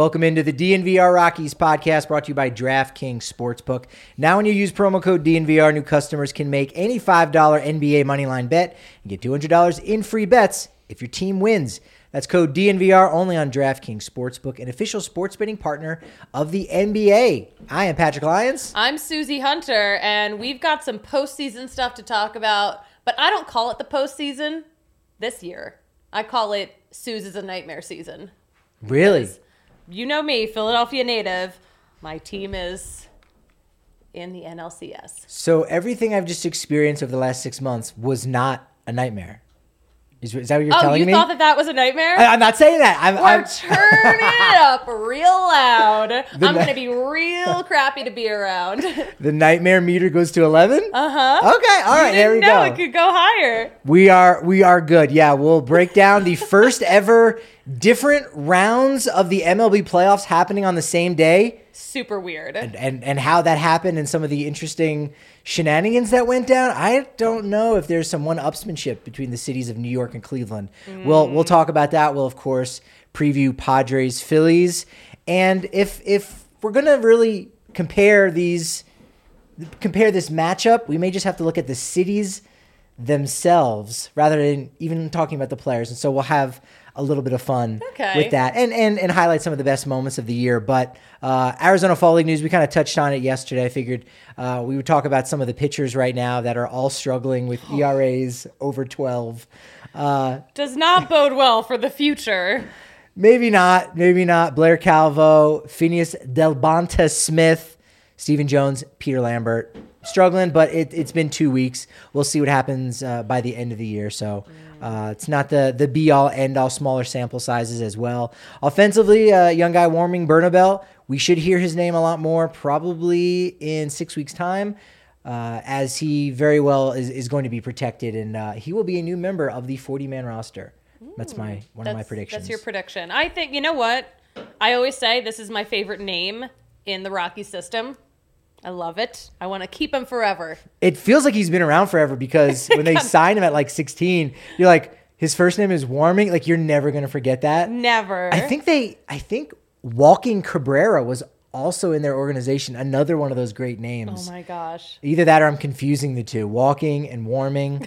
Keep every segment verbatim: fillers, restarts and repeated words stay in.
Welcome into the D N V R Rockies podcast brought to you by DraftKings Sportsbook. Now when you use promo code D N V R, new customers can make any five dollars N B A moneyline bet and get two hundred dollars in free bets if your team wins. That's code D N V R only on DraftKings Sportsbook, an official sports betting partner of the N B A. I am Patrick Lyons. I'm Susie Hunter, and we've got some postseason stuff to talk about, but I don't call it the postseason this year. I call it Suze is a nightmare season. Really? Because you know me, Philadelphia native. My team is in the N L C S. So everything I've just experienced over the last six months was not a nightmare. Is, is that what you're oh, telling you me? Oh, you thought that that was a nightmare? I, I'm not saying that. I'm, We're I'm... turning it up real loud. The I'm ni- going to be real crappy to be around. The nightmare meter goes to eleven? Uh-huh. Okay, all right, you there we didn't know go. it could go higher. We are we are good. Yeah, we'll break down the first ever different rounds of the M L B playoffs happening on the same day. Super weird. And, and and how that happened and some of the interesting shenanigans that went down. I don't know if there's some one-upsmanship between the cities of New York and Cleveland. Mm. We'll we'll talk about that. We'll, of course, preview Padres, Phillies. And if if we're going to really compare these compare this matchup, we may just have to look at the cities themselves rather than even talking about the players. And so we'll have a little bit of fun okay. with that and, and and highlight some of the best moments of the year. But uh, Arizona Fall League news, we kind of touched on it yesterday. I figured uh, we would talk about some of the pitchers right now that are all struggling with E R As over twelve. Uh, Does not bode well for the future. Maybe not. Maybe not. Blair Calvo, Phineas Delbonta Smith, Stephen Jones, Peter Lambert. Struggling, but it, it's been two weeks. We'll see what happens uh, by the end of the year. So uh, it's not the the be-all, end-all, smaller sample sizes as well. Offensively, uh, young guy Warming Bernabel, we should hear his name a lot more probably in six weeks' time uh, as he very well is, is going to be protected, and uh, he will be a new member of the forty-man roster. That's my one that's, of my predictions. That's your prediction. I think, you know what? I always say this is my favorite name in the Rocky system. I love it. I want to keep him forever. It feels like he's been around forever because when they signed him at like sixteen, you're like, his first name is Warming. Like, you're never going to forget that. Never. I think they, I think Walking Cabrera was also in their organization. Another one of those great names. Oh my gosh. Either that or I'm confusing the two. Walking and Warming.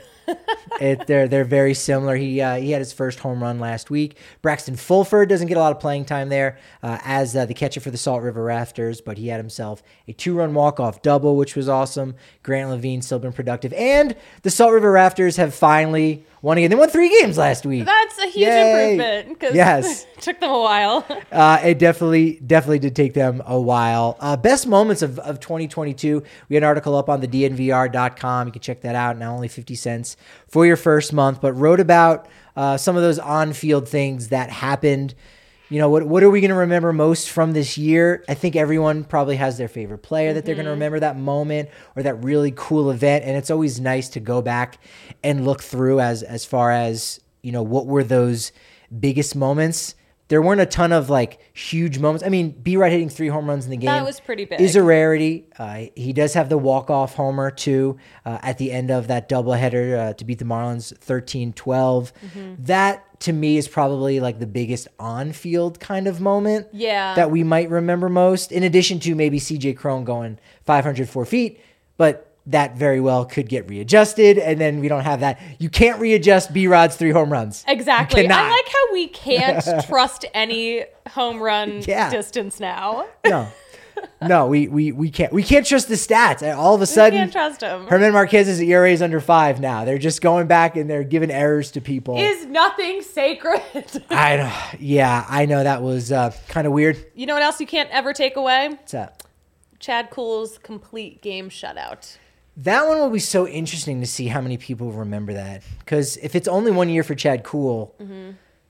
it, they're they're very similar. He uh, he had his first home run last week. Braxton Fulford doesn't get a lot of playing time there uh, as uh, the catcher for the Salt River Rafters, but he had himself a two-run walk-off double, which was awesome. Grant Levine still been productive. And the Salt River Rafters have finally won again. They won three games last week. That's a huge Yay. improvement because yes. it took them a while. uh, it definitely definitely did take them a while. Uh, best moments of, of twenty twenty-two. We had an article up on the D N V R dot com. You can check that out. Now only fifty cents for your first month, but wrote about uh, some of those on-field things that happened. You know, what what are we going to remember most from this year? I think everyone probably has their favorite player that they're going to remember that moment or that really cool event. And it's always nice to go back and look through as as far as, you know, what were those biggest moments. There weren't a ton of like huge moments. I mean, B-Rod hitting three home runs in the game. That was pretty big. Is a rarity. Uh, he does have the walk-off homer too uh, at the end of that doubleheader uh, to beat the Marlins thirteen twelve. Mm-hmm. That to me is probably like the biggest on-field kind of moment yeah. that we might remember most, in addition to maybe C J Cron going five hundred four feet. But that very well could get readjusted, and then we don't have that. You can't readjust B-Rod's three home runs. Exactly. I like how we can't trust any home run yeah. distance now. No. No, we, we we can't we can't trust the stats. All of a sudden, we can't trust him. Herman Marquez's E R A is under five now. They're just going back and they're giving errors to people. Is nothing sacred? I know. Yeah, I know that was uh, kind of weird. You know what else you can't ever take away? What's that? Chad Kuhl's complete game shutout. That one will be so interesting to see how many people remember that. Because if it's only one year for Chad Kuhl, mm-hmm.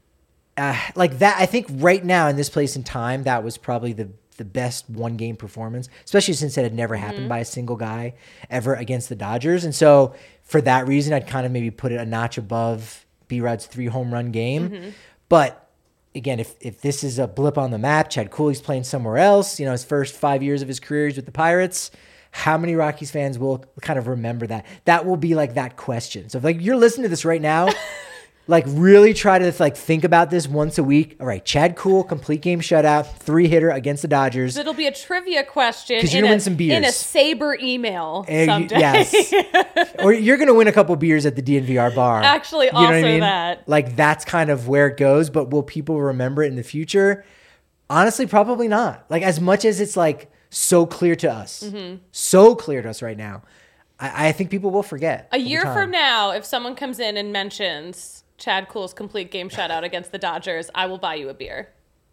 uh, like that, I think right now in this place and time, that was probably the the best one game performance, especially since it had never happened mm-hmm. by a single guy ever against the Dodgers. And so for that reason, I'd kind of maybe put it a notch above B-Rod's three home run game. Mm-hmm. But again, if if this is a blip on the map, Chad Kuhl's playing somewhere else, you know, his first five years of his career is with the Pirates. How many Rockies fans will kind of remember that? That will be like that question. So if like you're listening to this right now, Like, really try to like think about this once a week. All right, Chad Kuhl, complete game shutout, three hitter against the Dodgers. It'll be a trivia question 'Cause you're in, gonna a, win some beers. in a Saber email And you- someday. yes. Or you're going to win a couple beers at the D N V R bar. Actually, You know what I also mean? that. Like, that's kind of where it goes. But will people remember it in the future? Honestly, probably not. Like, as much as it's like so clear to us, Mm-hmm. so clear to us right now, I, I think people will forget. A over year time. from now, if someone comes in and mentions Chad Kuhl's complete game shutout against the Dodgers, I will buy you a beer.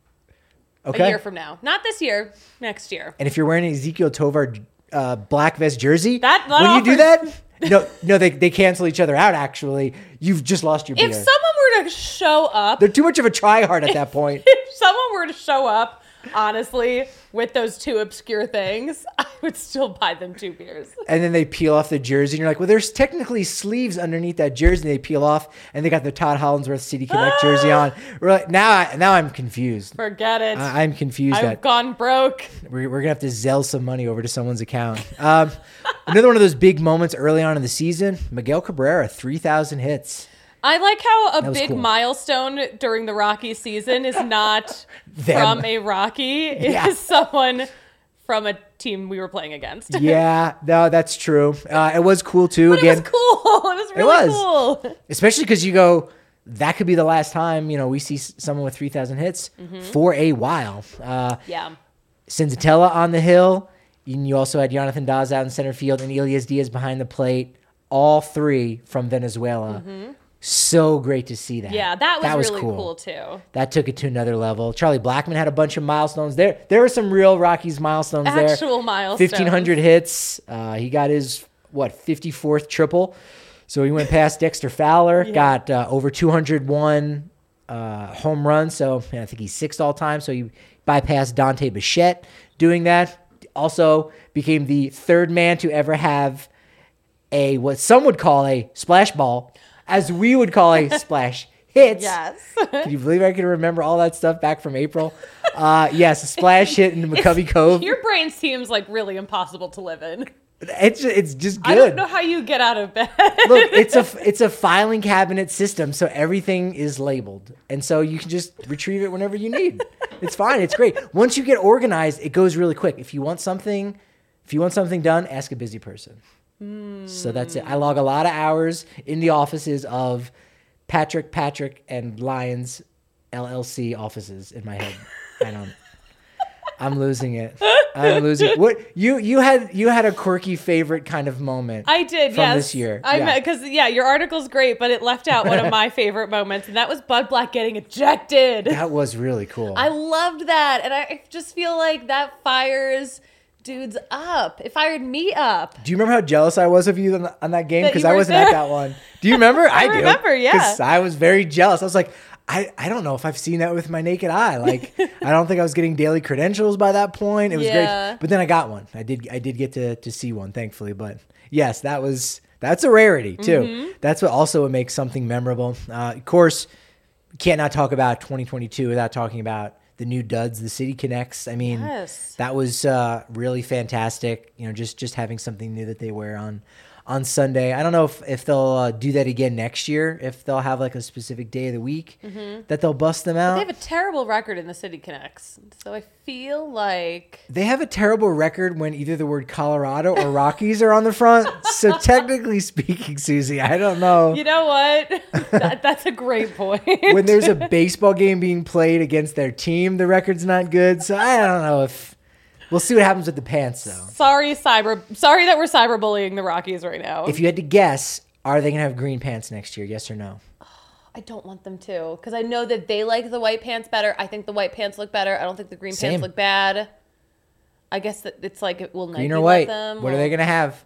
Okay. A year from now. Not this year, next year. And if you're wearing an Ezekiel Tovar uh, black vest jersey, That- that when you do offers- that, no, no, they, they cancel each other out, actually. You've just lost your beer. If someone were to show up, They're too much of a tryhard at that point. if someone were to show up, honestly, with those two obscure things, I would still buy them two beers. And then they peel off the jersey, and you're like, well, there's technically sleeves underneath that jersey. And they peel off, and they got the Todd Hollandsworth City Connect jersey on. We're like, now, I, now I'm confused. Forget it. I, I'm confused. I've That gone broke. we're, we're gonna have to Zelle some money over to someone's account. Um, another one of those big moments early on in the season: Miguel Cabrera, three thousand hits. I like how a That was big cool. milestone during the Rocky season is not Them. from a Rocky, it Yeah. is someone from a team we were playing against. Yeah, no, that's true. Uh, it was cool too. But Again, it was cool. It was really was. cool. especially because you go, that could be the last time you know we see s- someone with three thousand hits for a while. Uh, Yeah. Senzatella on the hill. And you also had Jonathan Daz out in center field and Elias Diaz behind the plate. All three from Venezuela. So great to see that. Yeah, that was, really cool. too. That took it to another level. Charlie Blackmon had a bunch of milestones. There there were some real Rockies milestones there. Actual milestones. fifteen hundred hits. Uh, he got his, what, fifty-fourth triple. So he went past Dexter Fowler. Got uh, over two hundred one uh, home runs. So man, I think he's sixth all time. So he bypassed Dante Bichette doing that. Also became the third man to ever have a, what some would call a splash ball, as we would call a splash hits. Yes. Can you believe I can remember all that stuff back from April? Uh, yes, a splash hit into McCovey Cove. Your brain seems like really impossible to live in. It's ju- it's just good. I don't know how you get out of bed. Look, it's a it's a filing cabinet system, so everything is labeled, and so you can just retrieve it whenever you need. It's fine. It's great. Once you get organized, it goes really quick. If you want something, if you want something done, ask a busy person. So that's it. I log a lot of hours in the offices of Patrick, Patrick, and Lions L L C offices in my head. I don't. I'm losing it. I'm losing it. What you you had you had a quirky favorite kind of moment. I did, from yes. this year. I Yeah. because yeah, your article's great, but it left out one of my favorite moments, and that was Bud Black getting ejected. That was really cool. I loved that, and I just feel like that fires dudes up. It fired me up. Do you remember how jealous I was of you on, on that game? That Because you I weren't wasn't at there? that one. Do you remember? I, do. remember, yeah. Because I was very jealous. I was like, I, I don't know if I've seen that with my naked eye. Like, I don't think I was getting daily credentials by that point. It was Yeah. great. But then I got one. I did I did get to, to see one, thankfully. But yes, that was that's a rarity too. Mm-hmm. That's what also would make something memorable. Uh, of course, you can't not talk about twenty twenty-two without talking about the new duds, the City Connects. I mean, Yes. that was uh, really fantastic. You know, just just having something new that they wear on on Sunday. I don't know if, if they'll uh, do that again next year, if they'll have like a specific day of the week that they'll bust them out. They have a terrible record in the City Connects, so I feel like They have a terrible record when either the word Colorado or Rockies are on the front. So technically speaking, Susie, I don't know. you know what? that, that's a great point. When there's a baseball game being played against their team, the record's not good. So I don't know if we'll see what happens with the pants, though. sorry, cyber. Sorry that we're cyberbullying the Rockies right now. If you had to guess, are they going to have green pants next year? Yes or no? I don't want them to, because I know that they like the white pants better. I think the white pants look better. I don't think the green Same. pants look bad. I guess that it's like it will Nike Green or let white? them. What are they going to have?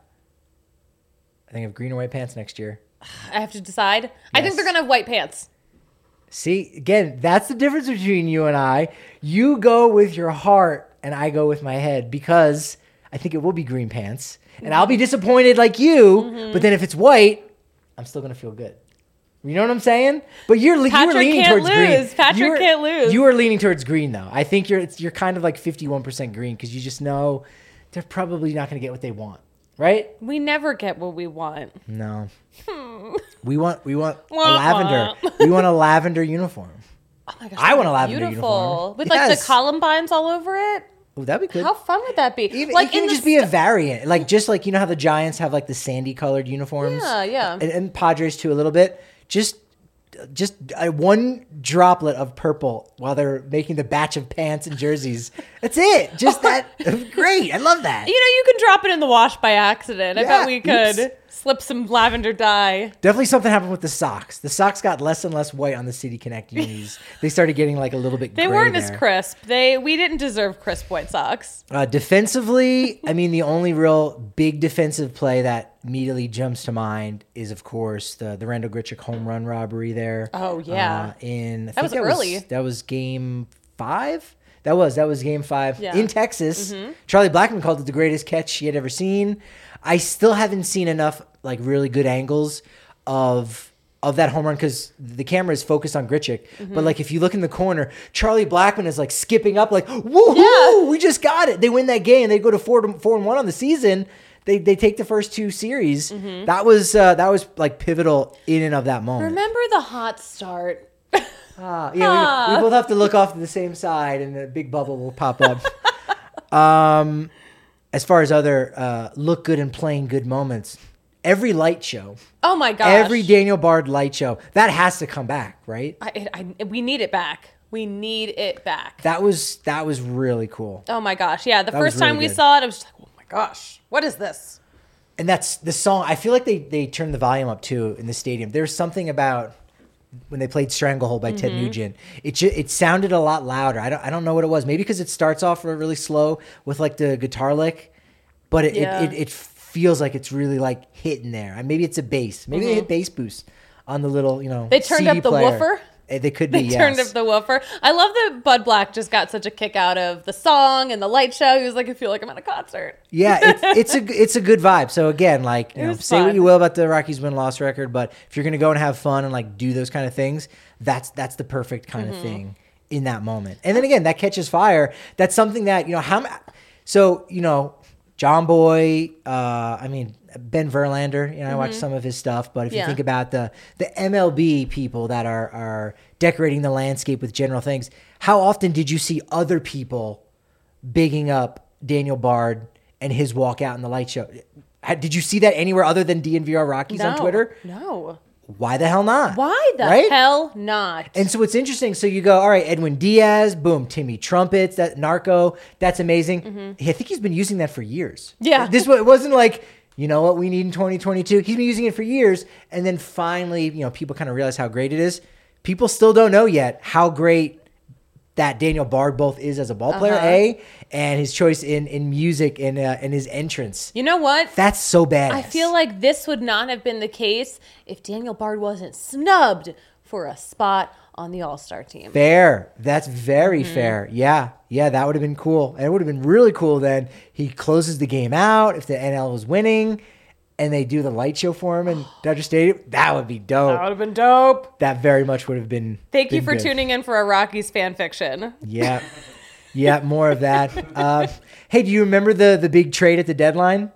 I think of green or white pants next year. I have to decide. I think Yes. they're gonna have white pants. See, again, that's the difference between you and I. You go with your heart, and I go with my head, because I think it will be green pants. And I'll be disappointed like you, Mm-hmm. but then if it's white, I'm still going to feel good. You know what I'm saying? But you're, le- you Patrick were leaning can't towards green. lose. Patrick You were- can't lose. You are leaning towards green, though. I think you're it's, you're kind of like fifty-one percent green, because you just know they're probably not going to get what they want, right? We never get what we want. No. Hmm. We want we want a Wah, lavender. wah. We want a lavender uniform. Oh my gosh, I that'd want a be lavender beautiful. uniform. With like Yes. the columbines all over it. Oh, that'd be good. How fun would that be? Even, like it can in the just be a st- variant, like just like you know how the Giants have like the sandy colored uniforms. Yeah, yeah. And, and Padres too a little bit. Just, just uh, one droplet of purple while they're making the batch of pants and jerseys. That's it. Just that. Great. I love that. You know, you can drop it in the wash by accident. I Yeah, bet we could oops. slip some lavender dye. Definitely something happened with the socks. The socks got less and less white on the City Connect unis. They started getting like a little bit. They gray weren't there. as crisp. They we didn't deserve crisp white socks. Uh, defensively, I mean, the only real big defensive play that immediately jumps to mind is, of course, the the Randall Grichuk home run robbery there. Oh, yeah. Uh, in I That think was that early. Was, that was game five. That was that was game five Yeah. in Texas. Charlie Blackmon called it the greatest catch he had ever seen. I still haven't seen enough like really good angles of of that home run because the camera is focused on Grichuk. But like if you look in the corner, Charlie Blackmon is like skipping up, like woohoo, Yeah. we just got it. They win that game. They go to four to four and one on the season. They they take the first two series. That was uh, that was like pivotal in and of that moment. Remember the hot start? Ah, yeah, we, we both have to look off to the same side, and a big bubble will pop up. um, as far as other uh, look good and playing good moments, every light show, Oh my gosh. every Daniel Bard light show, that has to come back, right? I, I, we need it back. We need it back. That was that was really cool, Oh my gosh. Yeah, the That was first time really we good. saw it, I was just like, oh my gosh, what is this? and that's the song. I feel like they they turned the volume up too in the stadium. There's something about when they played Stranglehold by Ted Mm-hmm. Nugent, it ju- it sounded a lot louder. I don't I don't know what it was. Maybe because it starts off really slow with like the guitar lick, but it Yeah. it, it, it feels like it's really like hitting there. And maybe it's a bass. Maybe they hit bass boost on the little you know. Mm-hmm. They turned C D up the player. woofer? Eh, They could be. They yes. turned up the woofer. I love that Bud Black just got such a kick out of the song and the light show. He was like, I feel like I'm at a concert. Yeah, it's, it's a it's a good vibe. So again, like you It know, was say what fun. you will about the Rockies win loss record, but if you're gonna go and have fun and like do those kind of things, that's that's the perfect kind Mm-hmm. of thing in that moment. And then again, that catches fire. That's something that you know how. ma- So you know, John Boy. Uh, I mean Ben Verlander. You know, I watched some of his stuff, but if you Mm-hmm. Yeah. think about the the M L B people that are are decorating the landscape with general things, how often did you see other people bigging up Daniel Bard and his walkout in the light show? Had- Did you see that anywhere other than D N V R Rockies on No. Twitter? No. Why the hell not? Why the Right? hell not? And so it's interesting. So you go, all right, Edwin Diaz, boom, Timmy Trumpets, that Narco, that's amazing. I think he's been using that for years. Mm-hmm. Yeah. This wa- it wasn't like, you know what we need in twenty twenty-two. He's been using it for years. And then finally, you know, people kind of realize how great it is. People still don't know yet how great that Daniel Bard both is as a ball player, Uh-huh. A, and his choice in, in music and, uh, and his entrance. You know what? That's so bad. I feel like this would not have been the case if Daniel Bard wasn't snubbed for a spot on the All-Star team. Fair. That's very Mm-hmm. fair. Yeah. Yeah, that would have been cool. And it would have been really cool then. He closes the game out if the N L was winning and they do the light show for him in Dodger Stadium. That would be dope. That would have been dope. That very much would have been. Thank you been for good. tuning in for our Rockies fan fiction. Yeah. Yeah, more of that. Uh, hey, do you remember the, the big trade at the deadline?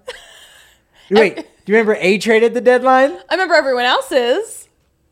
Wait, do you remember a trade at the deadline? I remember everyone else's.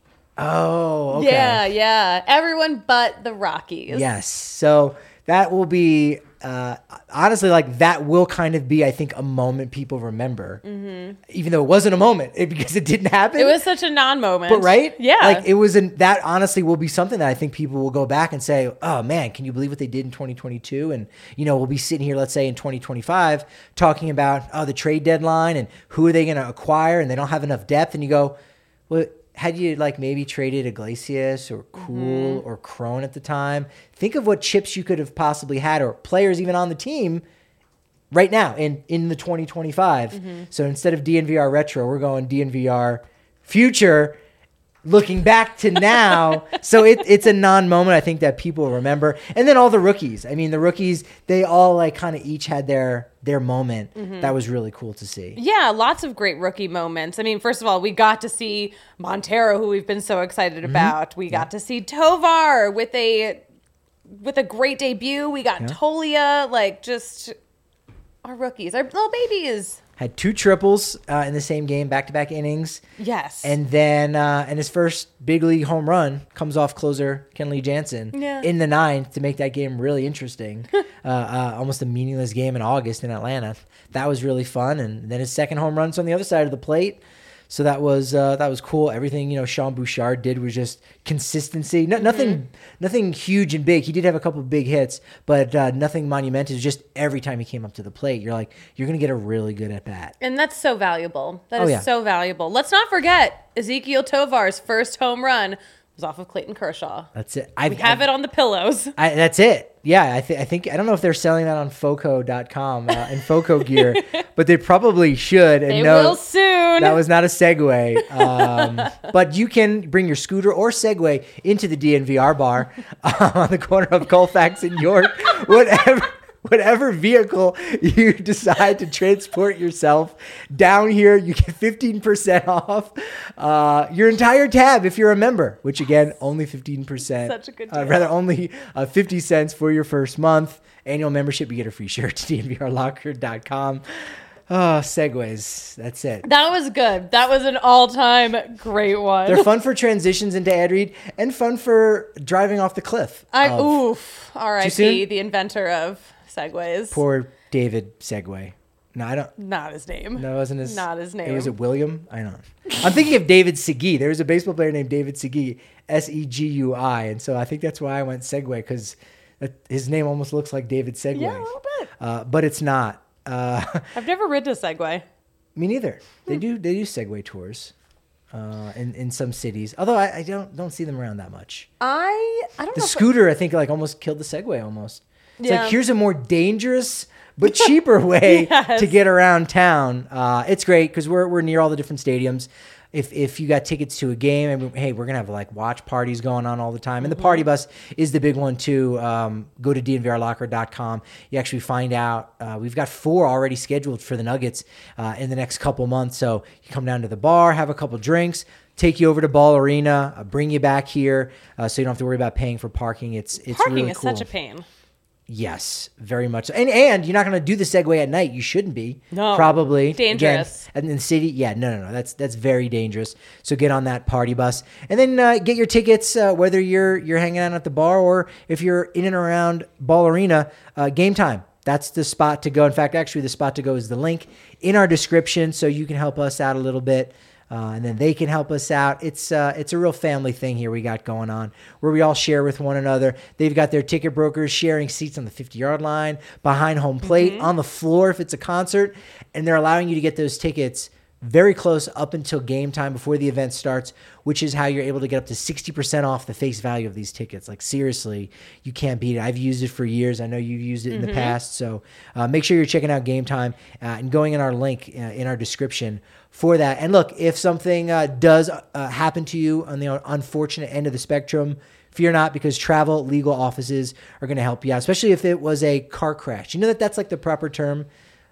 Oh, okay. Yeah, yeah. Everyone but the Rockies. Yes. So that will be, uh, honestly, like that will kind of be, I think, a moment people remember, even though it wasn't a moment it, because it didn't happen. It was such a non-moment. but right? Yeah. Like it was an, that honestly will be something that I think people will go back and say, oh man, can you believe what they did in twenty twenty-two? And, you know, we'll be sitting here, let's say in twenty twenty-five talking about, oh, the trade deadline and who are they going to acquire? And they don't have enough depth. And you go, well, had you like maybe traded Iglesias or Cool or Crone at the time, think of what chips you could have possibly had or players even on the team right now in, in the twenty twenty-five. So instead of D N V R retro, we're going D N V R future, looking back to now. So it, it's a non-moment I think that people remember. And then all the rookies. I mean, the rookies, they all like kind of each had their their moment. That was really cool to see. Yeah, lots of great rookie moments. I mean, first of all, we got to see Montero, who we've been so excited Mm-hmm. about. We got to see Tovar with a with a great debut. We got Tolia, like just our rookies, our little babies. had two triples uh, in the same game, back-to-back innings. Yes. And then uh, and his first big league home run comes off closer Kenley Jansen Yeah. in the ninth to make that game really interesting. uh, uh, almost a meaningless game in August in Atlanta. That was really fun. And then his second home run's on the other side of the plate. So that was uh, that was cool. Everything, you know, Sean Bouchard did was just consistency. No, nothing Mm-hmm. nothing huge and big. He did have a couple of big hits, but uh, nothing monumental. Just every time he came up to the plate, you're like, you're going to get a really good at bat. And that's so valuable. That Oh, is yeah. so valuable. Let's not forget Ezekiel Tovar's first home run was off of Clayton Kershaw. That's it. I We have it on the pillows. I, that's it. Yeah, I, th- I think I don't know if they're selling that on Foco dot com uh, and Foco gear, but they probably should. And They no, will soon. that was not a segue. Um, but you can bring your scooter or Segway into the D N V R bar uh, on the corner of Colfax and York. Whatever. Whatever vehicle you decide to transport yourself down here, you get fifteen percent off uh, your entire tab if you're a member, which again, only fifteen percent. Such a good Uh, deal. rather, only uh, fifty cents for your first month. Annual membership, you get a free shirt to D N V R locker dot com. Oh, segues. That's it. That was good. That was an all-time great one. They're fun for transitions into ad read and fun for driving off the cliff. I of oof. R I P soon? the inventor of segways. Poor David Segway. No, I don't. Not his name. No, it wasn't his. Not his It name. was it William? I don't know. I'm thinking of David Segui. There was a baseball player named David Segui, S E G U I, and so I think that's why I went Segway because his name almost looks like David Segway. Yeah, a little bit. Uh, but it's not. Uh, I've never ridden a Segway. me neither. They Hmm. do. They do Segway tours uh, in in some cities. Although I, I don't don't see them around that much. I I don't The know. if- scooter, I think, like almost killed the Segway. Almost. It's Yeah. like here's a more dangerous but cheaper way Yes. to get around town. Uh, it's great because we're we're near all the different stadiums. If if you got tickets to a game, I mean, hey, we're gonna have like watch parties going on all the time, and the party bus is the big one too. Um, go to D N V R locker dot com. You actually find out uh, we've got four already scheduled for the Nuggets uh, in the next couple months. So you come down to the bar, have a couple drinks, take you over to Ball Arena, uh, bring you back here, uh, so you don't have to worry about paying for parking. It's it's Parking really is cool. such a pain. Yes, very much so. And and you're not going to do the Segway at night. You shouldn't be. No. Probably. Dangerous. Again, and in the city, yeah, no, no, no. That's that's very dangerous. So get on that party bus. And then uh, get your tickets, uh, whether you're you're hanging out at the bar or if you're in and around Ball Arena, uh, Game Time. That's the spot to go. In fact, actually, the spot to go is the link in our description so you can help us out a little bit. Uh, and then they can help us out. It's uh, it's a real family thing here we got going on where we all share with one another. They've got their ticket brokers sharing seats on the fifty-yard line, behind home plate, on the floor if it's a concert, and they're allowing you to get those tickets very close up until game time before the event starts, which is how you're able to get up to sixty percent off the face value of these tickets. Like, seriously, you can't beat it. I've used it for years. I know you've used it in the past. So uh, make sure you're checking out Game Time uh, and going in our link uh, in our description for that. And look, if something uh, does uh, happen to you on the unfortunate end of the spectrum, fear not, because Travel Legal Offices are going to help you out, especially if it was a car crash. You know that that's like the proper term.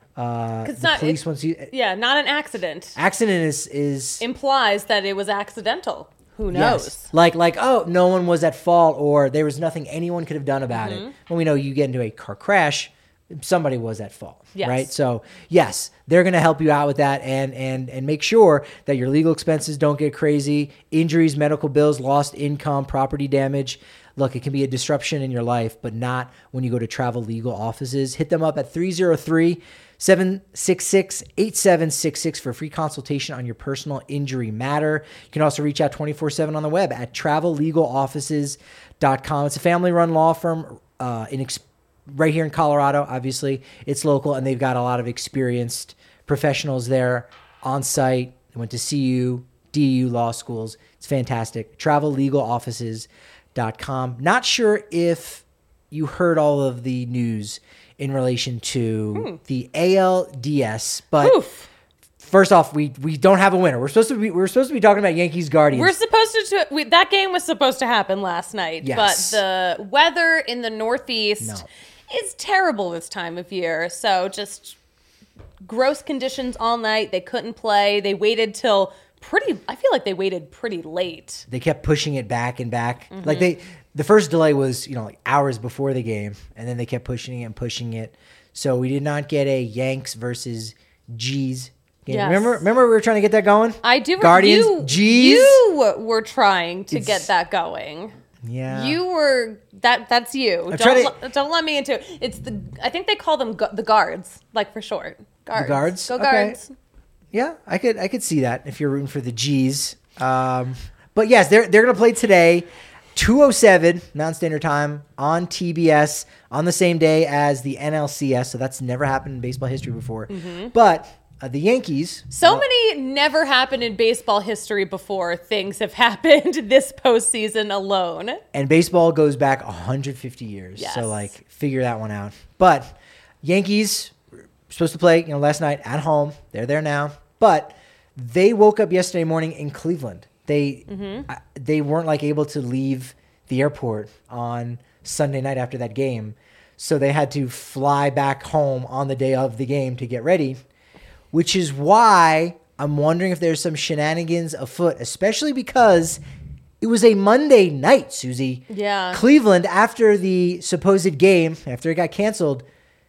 Uh, It's the not- police it- wants you. Yeah, not an accident. Accident is is Implies that it was accidental. Who knows? yes. Like like oh, no one was at fault, or there was nothing anyone could have done about Mm-hmm. it. When we know you get into a car crash, somebody was at fault, Yes. right? So yes, they're going to help you out with that, and and and make sure that your legal expenses don't get crazy. Injuries, medical bills, lost income, property damage. Look, it can be a disruption in your life, but not when you go to Travel Legal Offices. Hit them up at three oh three, seven six six, eight seven six six for a free consultation on your personal injury matter. You can also reach out twenty-four seven on the web at travel legal offices dot com. It's a family-run law firm uh, in ex- right here in Colorado, obviously. It's local, and they've got a lot of experienced professionals there on site. They went to C U, D U law schools. It's fantastic. travel legal offices dot com. Not sure if you heard all of the news in relation to the A L D S, but Oof. first off, we we don't have a winner. We're supposed to be we're supposed to be talking about Yankees Guardians. We're supposed to. We, that game was supposed to happen last night, Yes. but the weather in the Northeast No. is terrible this time of year. So just gross conditions all night. They couldn't play. They waited till pretty. I feel like they waited pretty late. They kept pushing it back and back. Mm-hmm. Like they, the first delay was, you know, like hours before the game, and then they kept pushing it and pushing it. So we did not get a Yanks versus G's game. Yes. Remember, remember we were trying to get that going? I do. Guardians, you, G's. You were trying to It's- get that going. Yeah. You were that. That's you. I'm Don't trying let- don't let me into it. It's the. I think they call them gu- the guards, like for short. Guards. guards? Go Okay. guards. Yeah, I could I could see that if you're rooting for the G's. Um, but yes, they're they're gonna play today, two oh seven Mountain Standard Time on T B S on the same day as the N L C S. So that's never happened in baseball history before. Mm-hmm. But uh, the Yankees. So uh, many never happened in baseball history before things have happened this postseason alone. And baseball goes back one hundred fifty years. Yes. So like figure that one out. But Yankees were supposed to play, you know, last night at home. They're there now. But they woke up yesterday morning in Cleveland. They Mm-hmm. uh, they weren't like able to leave the airport on Sunday night after that game. So they had to fly back home on the day of the game to get ready, which is why I'm wondering if there's some shenanigans afoot, especially because it was a Monday night, Susie. Yeah. Cleveland, after the supposed game, after it got canceled,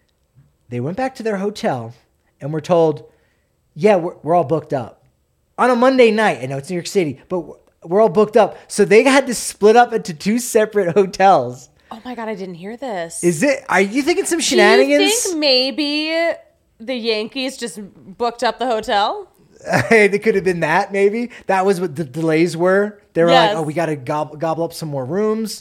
they went back to their hotel and were told, yeah, we're, we're all booked up. On a Monday night, I know it's New York City, but we're, we're all booked up. So they had to split up into two separate hotels. Oh my god, I didn't hear this. Is it, are you thinking some Do shenanigans? you think maybe the Yankees just booked up the hotel? It could have been that, maybe. That was what the delays were. They were Yes. like, oh, we got to gobble, gobble up some more rooms.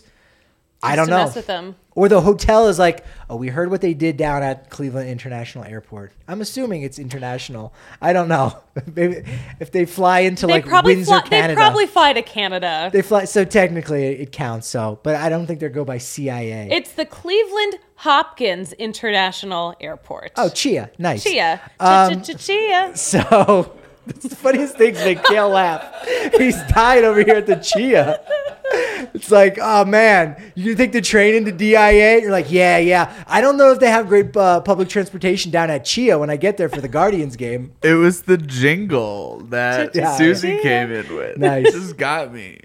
I Just don't to know. mess with them. Or the hotel is like, oh, we heard what they did down at Cleveland International Airport. I'm assuming it's international. I don't know. Maybe if they fly into They like probably Windsor, fly, Canada. they probably fly to Canada. They fly, so technically it counts. So, but I don't think they go by C I A. It's the Cleveland Hopkins International Airport. oh, Chia, nice. Chia. Um, Chia. So it's the funniest things make Kale laugh. He's dying over here at the Chia. It's like, oh man, you take the train into D I A? You're like, yeah, yeah. I don't know if they have great uh, public transportation down at Chia when I get there for the Guardians game. It was the jingle that Yeah. Susie Yeah. came in with. Nice. This got me.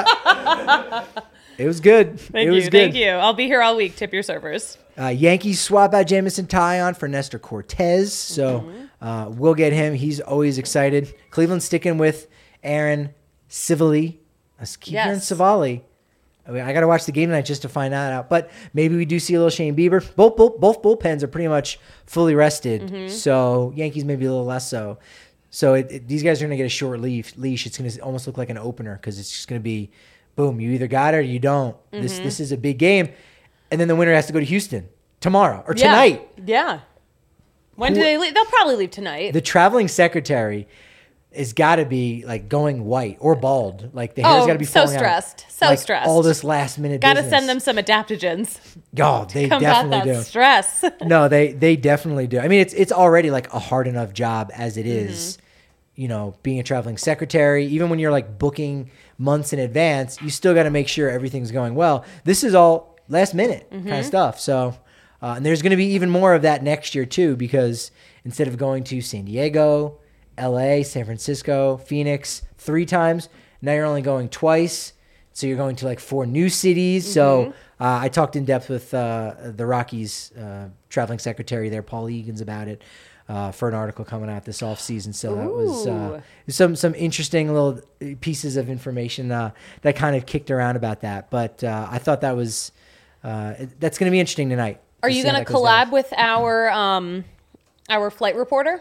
Yeah. It was good. Thank it was you. good. Thank you. I'll be here all week. Tip your servers. Uh, Yankees swap out Jamison Tyon for Nestor Cortez, so Mm-hmm. uh, we'll get him. He's always excited. Cleveland sticking with Aaron Civali. I keep hearing Yes. Civali. I, mean, I got to watch the game tonight just to find that out. But maybe we do see a little Shane Bieber. Both both, both bullpens are pretty much fully rested, Mm-hmm. so Yankees maybe a little less so. So it, it, these guys are going to get a short leash. leash. It's going to almost look like an opener because it's just going to be, boom, you either got it or you don't. This Mm-hmm. this is a big game. And then the winner has to go to Houston tomorrow or Yeah. tonight. Yeah. When do Who- they leave? They'll probably leave tonight. The traveling secretary has got to be like going white or bald. Like the hair's Oh, got to be so falling out. stressed. So Like, stressed. All this last minute Got to business. send them some adaptogens. Oh, they Combat definitely that do. stress. No, they they definitely do. I mean, it's it's already like a hard enough job as it is, Mm-hmm. you know, being a traveling secretary. Even when you're like booking months in advance, you still got to make sure everything's going well. This is all last minute kind Mm-hmm. of stuff. So, uh, and there's going to be even more of that next year too, because instead of going to San Diego, L A, San Francisco, Phoenix three times, now you're only going twice. So you're going to like four new cities. So uh, I talked in depth with uh, the Rockies uh, traveling secretary there, Paul Egan's, about it uh, for an article coming out this off season. So that was uh, some some interesting little pieces of information uh, that kind of kicked around about that. But uh, I thought that was uh, that's going to be interesting tonight. Are to you see how going to that goes down. collab with our um our flight reporter?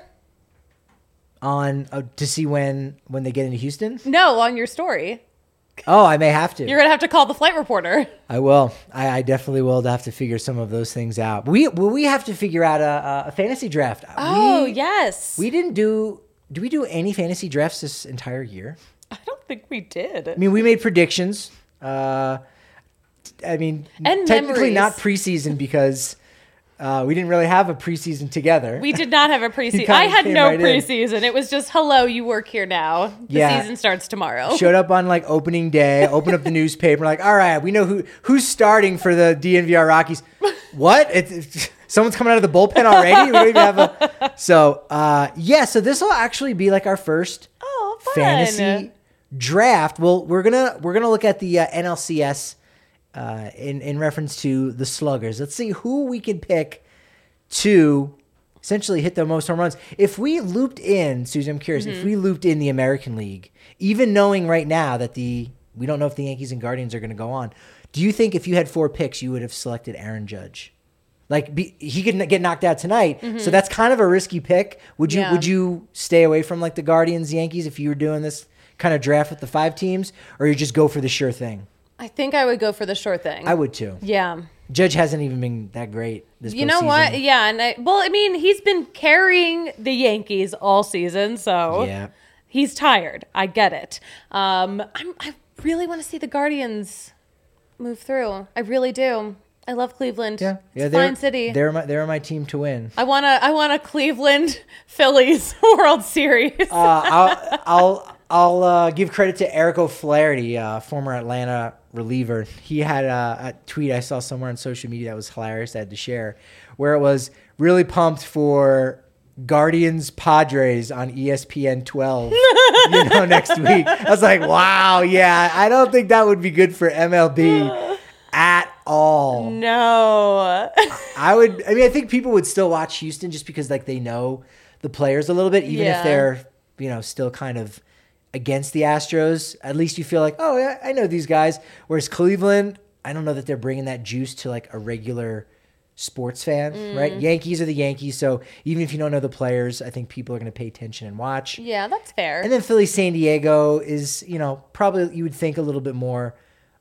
on uh, to see when when they get into Houston? No, on your story. Oh, I may have to. You're going to have to call the flight reporter. I will. I, I definitely will have to figure some of those things out. We will we have to figure out a, a fantasy draft. Oh, we, yes. We didn't do. Do we do any fantasy drafts this entire year? I don't think we did. I mean, we made predictions. Uh, I mean, And technically memories. not preseason because uh, we didn't really have a preseason together. We did not have a preseason. kinda I had came no right in. preseason. It was just, hello, you work here now. The Yeah. season starts tomorrow. Showed up on like opening day, opened up the newspaper, like, all right, we know who who's starting for the D N V R Rockies. What? It's, it's- someone's coming out of the bullpen already? We don't even have a. So uh, yeah, so this will actually be like our first Oh, fun. fantasy draft. Well, we're gonna we're gonna look at the uh, N L C S uh, in in reference to the Sluggers. Let's see who we can pick to essentially hit the most home runs. If we looped in, Susan, I'm curious, Mm-hmm. if we looped in the American League, even knowing right now that the we don't know if the Yankees and Guardians are going to go on, do you think if you had four picks, you would have selected Aaron Judge? Like be, he could n- get knocked out tonight, so that's kind of a risky pick. Would you Yeah. would you stay away from like the Guardians, Yankees if you were doing this kind of draft with the five teams, or you just go for the sure thing? I think I would go for the sure thing. I would too. Yeah. Judge hasn't even been that great this You know what? postseason. Yeah, and I, well, I mean, he's been carrying the Yankees all season, so Yeah. he's tired. I get it. Um, I'm, I really want to see the Guardians move through. I really do. I love Cleveland. Yeah, it's yeah, a they're, fine city. They're my they're my team to win. I want to. I want a Cleveland Phillies World Series. Uh, I'll I'll I'll uh, give credit to Eric O'Flaherty, uh, former Atlanta reliever. He had a, a tweet I saw somewhere on social media that was hilarious. I had to share, where it was really pumped for Guardians Padres on E S P N twelve. you know, next week. I was like, wow, yeah. I don't think that would be good for M L B at all. No. I would. I mean, I think people would still watch Houston just because like they know the players a little bit, even Yeah. if they're you know still kind of against the Astros. At least you feel like, oh yeah, I know these guys. Whereas Cleveland, I don't know that they're bringing that juice to like a regular sports fan, Mm. right? Yankees are the Yankees, so even if you don't know the players, I think people are going to pay attention and watch. Yeah, that's fair. And then Philly, San Diego is, you know, probably you would think a little bit more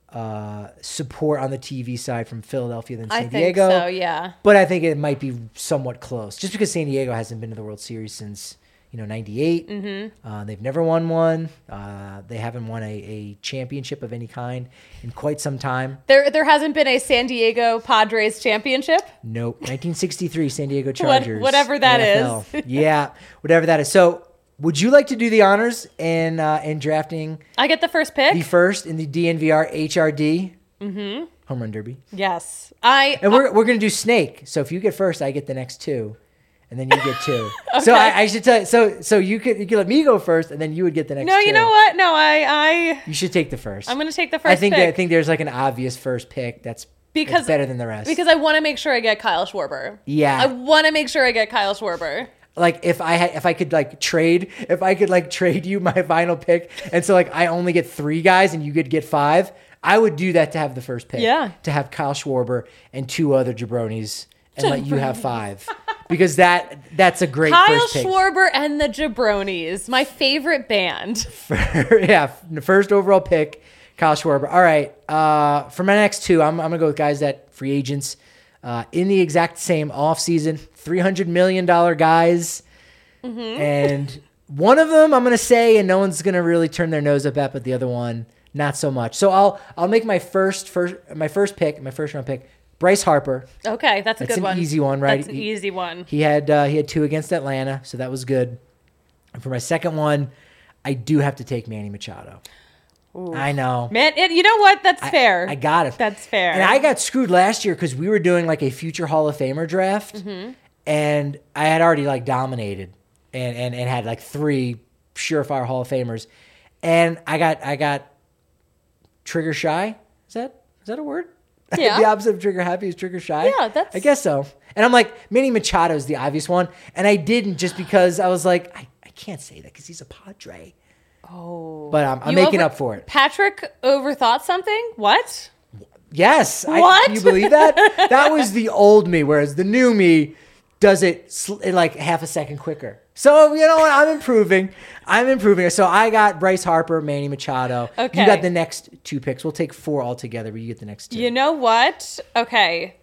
uh, support on the T V side from Philadelphia than San I think Diego. so. Yeah. But I think it might be somewhat close, just because San Diego hasn't been to the World Series since you know ninety-eight. Mm-hmm. Uh, they've never won one. Uh, they haven't won a, a championship of any kind in quite some time. There, there hasn't been a San Diego Padres championship. Nope. nineteen sixty-three San Diego Chargers. whatever that that is. is. Yeah, whatever that is. So, would you like to do the honors in uh, in drafting I get the first pick. the first in the D N V R H R D mm-hmm. Home Run Derby? Yes, I. And we're we're gonna do Snake. So if you get first, I get the next two, and then you get two. So I, I should tell you. So so you could you could let me go first, and then you would get the next. no, two. you know what? No, I, I. You should take the first. I'm gonna take the first. I think pick that, I think there's like an obvious first pick that's because that's better than the rest. Because I want to make sure I get Kyle Schwarber. Yeah. I want to make sure I get Kyle Schwarber. Like if I had, if I could like trade, if I could like trade you my final pick, and so like I only get three guys and you could get five, I would do that to have the first pick. Yeah. To have Kyle Schwarber and two other jabronis and let you have five, because that that's a great Kyle first pick. Schwarber and the Jabronis, my favorite band. Yeah, the first overall pick, Kyle Schwarber. All right, uh, for my next two, I'm I'm gonna go with guys that free agents. Uh, in the exact same offseason, three hundred million dollars guys. Mm-hmm. And one of them I'm going to say, and no one's going to really turn their nose up at, but the other one, not so much. So I'll I'll make my first first my first pick, my first round pick, Bryce Harper. Okay, that's a That's good an one. easy one, right? That's an He- easy one. He had uh, he had two against Atlanta, so that was good. And for my second one, I do have to take Manny Machado. I know. Man, it, you know what? That's I- fair. I got it. That's fair. And I got screwed last year because we were doing like a future Hall of Famer draft, Mm-hmm. and I had already like dominated and, and, and had like three surefire Hall of Famers, and I got I got trigger shy. Is that is that a word? Yeah. The opposite of trigger happy is trigger shy. Yeah, that's- I guess so. And I'm like, Manny Machado is the obvious one, and I didn't just because I was like, I, I can't say that because he's a Padre. Oh. But um, I'm You making over- up for it. Patrick overthought something? What? Yes. I, What? can you believe that? That was the old me, whereas the new me does it sl- in like half a second quicker. So, you know what? I'm improving. I'm improving. So I got Bryce Harper, Manny Machado. Okay. You got the next two picks. We'll take four altogether, but you get the next two. You know what? Okay.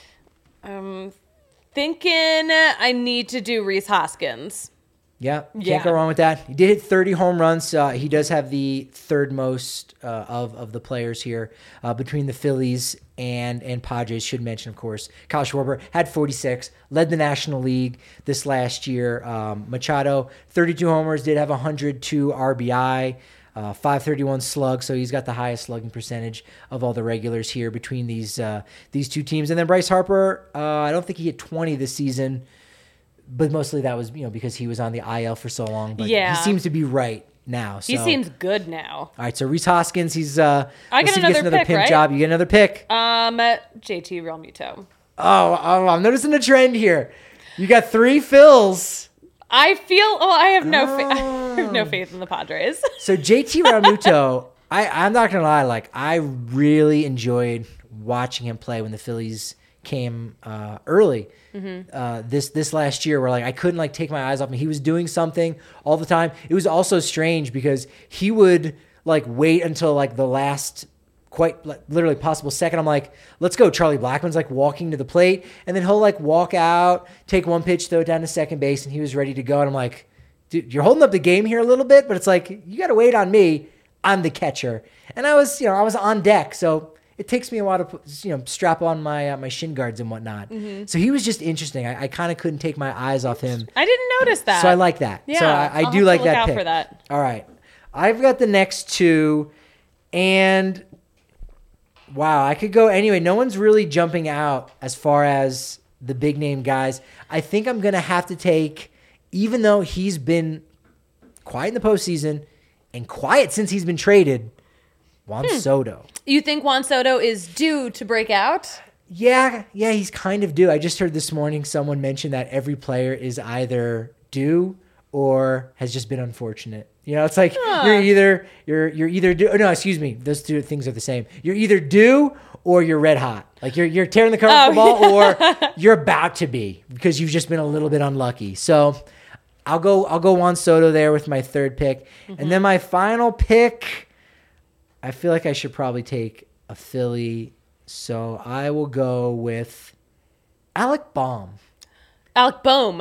I'm thinking I need to do Reese Hoskins. Yeah, can't Yeah. go wrong with that. He did hit thirty home runs. Uh, he does have the third most uh, of of the players here uh, between the Phillies and and Padres. Should mention, of course, Kyle Schwarber had forty-six, led the National League this last year. Um, Machado, thirty-two homers, did have one hundred two R B I. Uh, five thirty-one slug, so he's got the highest slugging percentage of all the regulars here between these uh, these two teams. And then Bryce Harper, uh, I don't think he hit twenty this season, but mostly that was you know because he was on the I L for so long. But Yeah. he seems to be right now. So. He seems good now. All right. So Reese Hoskins, he's uh, I let's get see if he gets another pick, pimp right? job. You get another pick. Um, J T Realmuto. Oh, oh, I'm noticing a trend here. You got three Phils. I feel. Oh, I have no. Fa- I Oh. have no faith in the Padres. So J T Realmuto, I, I'm not gonna lie, like I really enjoyed watching him play when the Phillies came uh, early Mm-hmm. uh, this this last year, where like I couldn't like take my eyes off him. He was doing something all the time. It was also strange because he would like wait until like the last quite like, literally possible second. I'm like, let's go. Charlie Blackmon's like walking to the plate, and then he'll like walk out, take one pitch, throw it down to second base, and he was ready to go. And I'm like, dude, you're holding up the game here a little bit, but it's like, you got to wait on me. I'm the catcher. And I was, you know, I was on deck. So it takes me a while to, put, you know, strap on my uh, my shin guards and whatnot. Mm-hmm. So he was just interesting. I, I kind of couldn't take my eyes off him. I didn't notice that. So I like that. Yeah, so I, I I'll do have like to look that out pick. for that. All right. I've got the next two. And wow, I could go anyway. No one's really jumping out as far as the big name guys. I think I'm going to have to take, even though he's been quiet in the postseason and quiet since he's been traded, Juan Hmm. Soto. You think Juan Soto is due to break out? Yeah, yeah, he's kind of due. I just heard this morning someone mention that every player is either due or has just been unfortunate. You know, it's like Huh. you're either you're you're either due. Oh, no, excuse me. Those two things are the same. You're either due or you're red hot. Like you're you're tearing the cover off the Oh, ball, or you're about to be because you've just been a little bit unlucky. So I'll go I'll go Juan Soto there with my third pick, Mm-hmm. and then my final pick. I feel like I should probably take a Philly. So I will go with Alec Baum. Alec Bohm.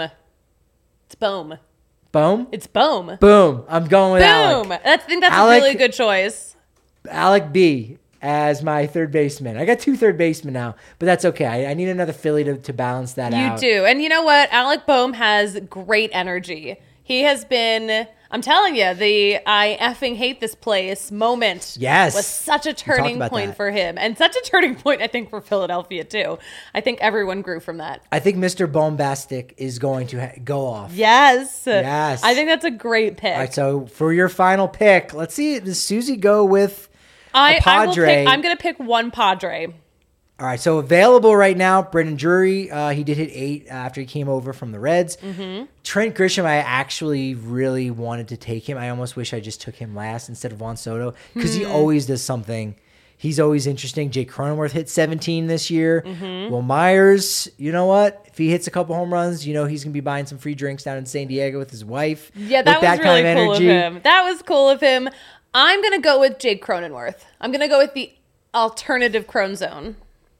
It's Bohm. Boom? It's Bohm. Boom. I'm going with Boom. Alec. That's, I think that's Alec- a really good choice. Alec B as my third baseman. I got two third basemen now, but that's okay. I, I need another Philly to, to balance that You out. do. And you know what? Alec Bohm has great energy. He has been, I'm telling you, the I effing hate this place moment Yes. was such a talked turning about point that. for him. And such a turning point, I think, for Philadelphia, too. I think everyone grew from that. I think Mister Bombastic is going to ha- go off. Yes. Yes. I think that's a great pick. All right, so for your final pick, let's see, does Susie go with I, a I will Padre? pick, I'm going to pick one Padre. All right, so available right now, Brendan Drury. Uh, he did hit eight after he came over from the Reds. Mm-hmm. Trent Grisham, I actually really wanted to take him. I almost wish I just took him last instead of Juan Soto because Hmm. he always does something. He's always interesting. Jake Cronenworth hit seventeen this year. Mm-hmm. Will Myers, you know what? If he hits a couple home runs, you know he's going to be buying some free drinks down in San Diego with his wife. Yeah, that with was that really kind of cool energy. of him. That was cool of him. I'm going to go with Jake Cronenworth. I'm going to go with the alternative Crone Zone.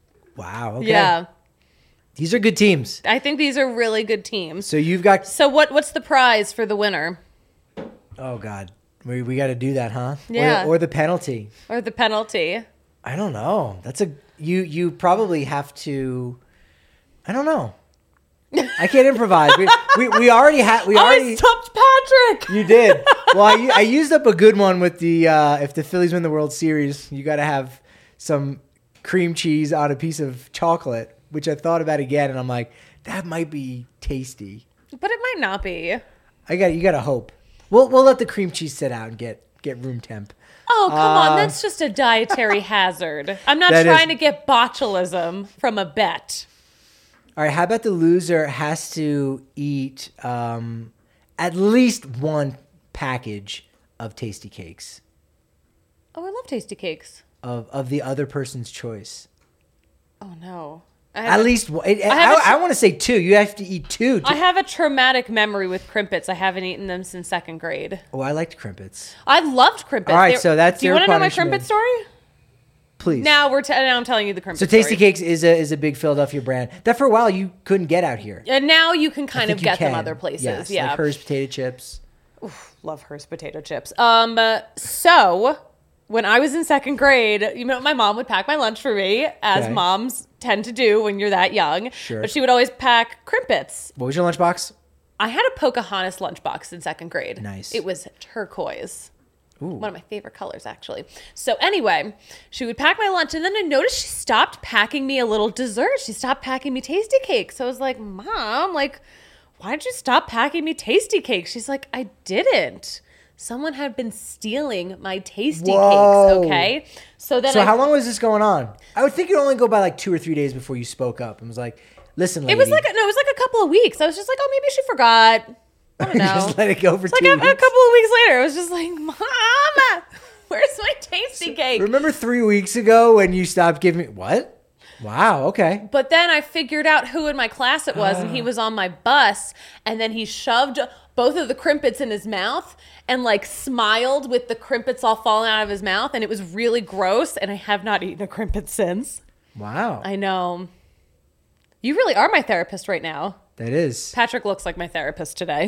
Wow. Okay. Yeah. These are good teams. I think these are really good teams. So you've got. So what? What's the prize for the winner Oh, God. We, we got to do that, huh? Yeah. Or, or the penalty. or the penalty? I don't know. That's a you. You probably have to. I don't know. I can't improvise. We, we we already had. We already. I stumped Patrick. You did. Well, I, I used up a good one with the. Uh, if the Phillies win the World Series, you got to have some cream cheese on a piece of chocolate, which I thought about again, and I'm like, that might be tasty. But it might not be. I got. You got to hope. We'll we'll let the cream cheese sit out and get get room temp. Oh, come Uh, on. That's just a dietary hazard. I'm not That is- trying to get botulism from a bet. All right, how about the loser has to eat um, at least one package of Tasty Cakes Oh, I love tasty cakes. of, of the other person's choice? Oh, no. I At have, a, least one. I, have a- I, want to say two. You have to eat two. To, I have a traumatic memory with Crimpets. I haven't eaten them since second grade. oh, I liked Crimpets. I loved Crimpets. All right, They- so that's Do you your want to know my punishment. Crimpet story? Please. Now we're t- now I'm telling you the Crimpet so Tasty story. Cakes is a is a big Philadelphia brand that for a while you couldn't get out here. And now you can I kind think of you get them can. other places. Yes, yeah. like Hers potato chips. Love Hearst potato chips. Um, uh, so when I was in second grade, you know, my mom would pack my lunch for me, as Okay. moms tend to do when you're that young. Sure. But she would always pack Crimpets. What was your lunchbox? I had a Pocahontas lunchbox in second grade. Nice. It was turquoise. Ooh. One of my favorite colors, actually. So anyway, she would pack my lunch, and then I noticed she stopped packing me a little dessert. She stopped packing me tasty cakes. So I was like, Mom, like, why did you stop packing me tasty cakes? She's like, I didn't. Someone had been stealing my tasty Whoa. cakes, okay? So then So I, how long was this going on? I would think it would only go by like two or three days before you spoke up and was like, listen, lady. It was like a, no, it was like a couple of weeks. I was just like, oh, maybe she forgot. I don't know. Just let it go for It's two like a, weeks. a couple of weeks later, I was just like, Mom, where's my tasty cake? Remember three weeks ago when you stopped giving me what? Wow. Okay. But then I figured out who in my class it was, and he was on my bus, and then he shoved both of the crimpets in his mouth and like smiled with the crimpets all falling out of his mouth, and it was really gross, and I have not eaten a crimpet since. Wow. I know. You really are my therapist right now. That is Patrick looks like my therapist today.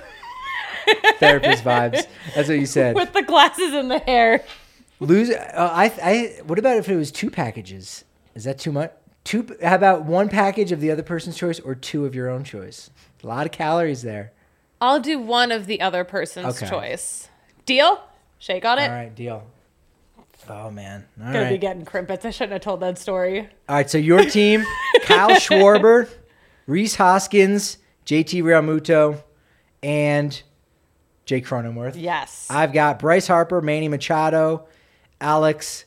therapist vibes. That's what you said. With the glasses and the hair. Lose. Uh, I. I. What about if it was two packages? Is that too much? Two. How about one package of the other person's choice or two of your own choice? A lot of calories there. I'll do one of the other person's Okay. choice. Deal? Shake on it. All right. Deal. Oh man. All Gonna be right. getting crimpets. I shouldn't have told that story. All right. So your team: Kyle Schwarber, Reese Hoskins, J T Realmuto, and Jake Cronenworth. Yes. I've got Bryce Harper, Manny Machado, Alex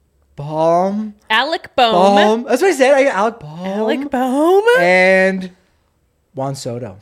Baum. Alec Bohm. Baum. That's what I said. I got Alec Baum. Alec Bohm. And Juan Soto.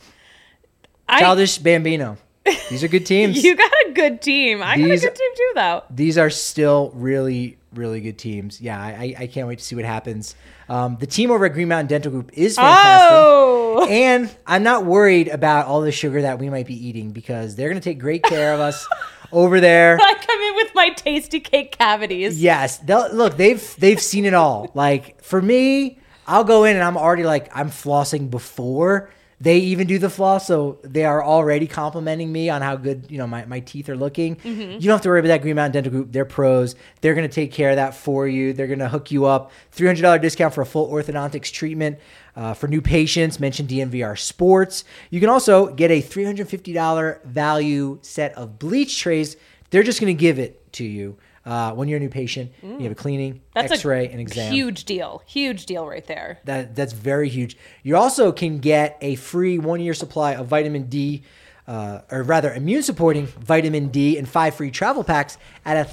I, Childish Bambino. These are good teams. You got a good team. I got a These- good team too, though. These are still really, really good teams. Yeah, I, I can't wait to see what happens. Um, the team over at Green Mountain Dental Group is fantastic. Oh. And I'm not worried about all the sugar that we might be eating because they're going to take great care of us over there. I come in with my tasty cake cavities. Yes. They'll, look, they've they've seen it all. Like, for me, I'll go in and I'm already like, I'm flossing before they even do the floss. So they are already complimenting me on how good, you know, my, my teeth are looking. Mm-hmm. You don't have to worry about that. Green Mountain Dental Group. They're pros. They're going to take care of that for you. They're going to hook you up. three hundred dollars discount for a full orthodontics treatment. Uh, for new patients, mention D N V R Sports. You can also get a three hundred fifty dollars value set of bleach trays. They're just going to give it to you uh, when you're a new patient. You have a cleaning, That's x-ray, a and exam. huge deal. Huge deal right there. That That's very huge. You also can get a free one-year supply of vitamin D, uh, or rather immune-supporting vitamin D and five free travel packs at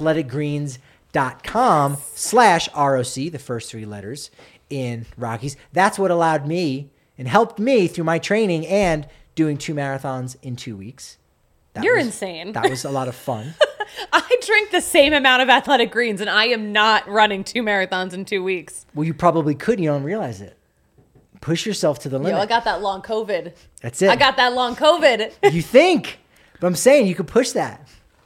athleticgreens.com slash ROC, the first three letters in Rockies. That's what allowed me and helped me through my training and doing two marathons in two weeks. That You're was- insane. That was a lot of fun. I drink the same amount of Athletic Greens, and I am not running two marathons in two weeks. Well, you probably could. You don't realize it. Push yourself to the limit. Yo, I got that long COVID. That's it. I got that long COVID. You think. But I'm saying you could push that.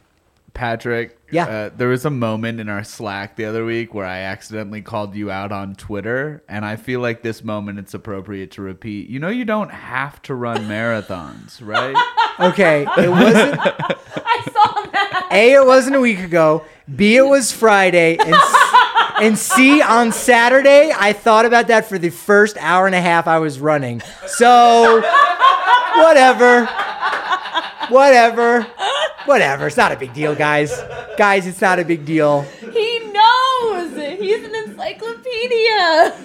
Patrick, Yeah. uh, there was a moment in our Slack the other week where I accidentally called you out on Twitter, and I feel like this moment it's appropriate to repeat. You know, you don't have to run marathons, right? Okay. It wasn't. I saw that. A, it wasn't a week ago. B, it was Friday. And, and C, on Saturday, I thought about that for the first hour and a half I was running. So, whatever. Whatever. Whatever. It's not a big deal, guys. Guys, it's not a big deal. He knows. He's an encyclopedia.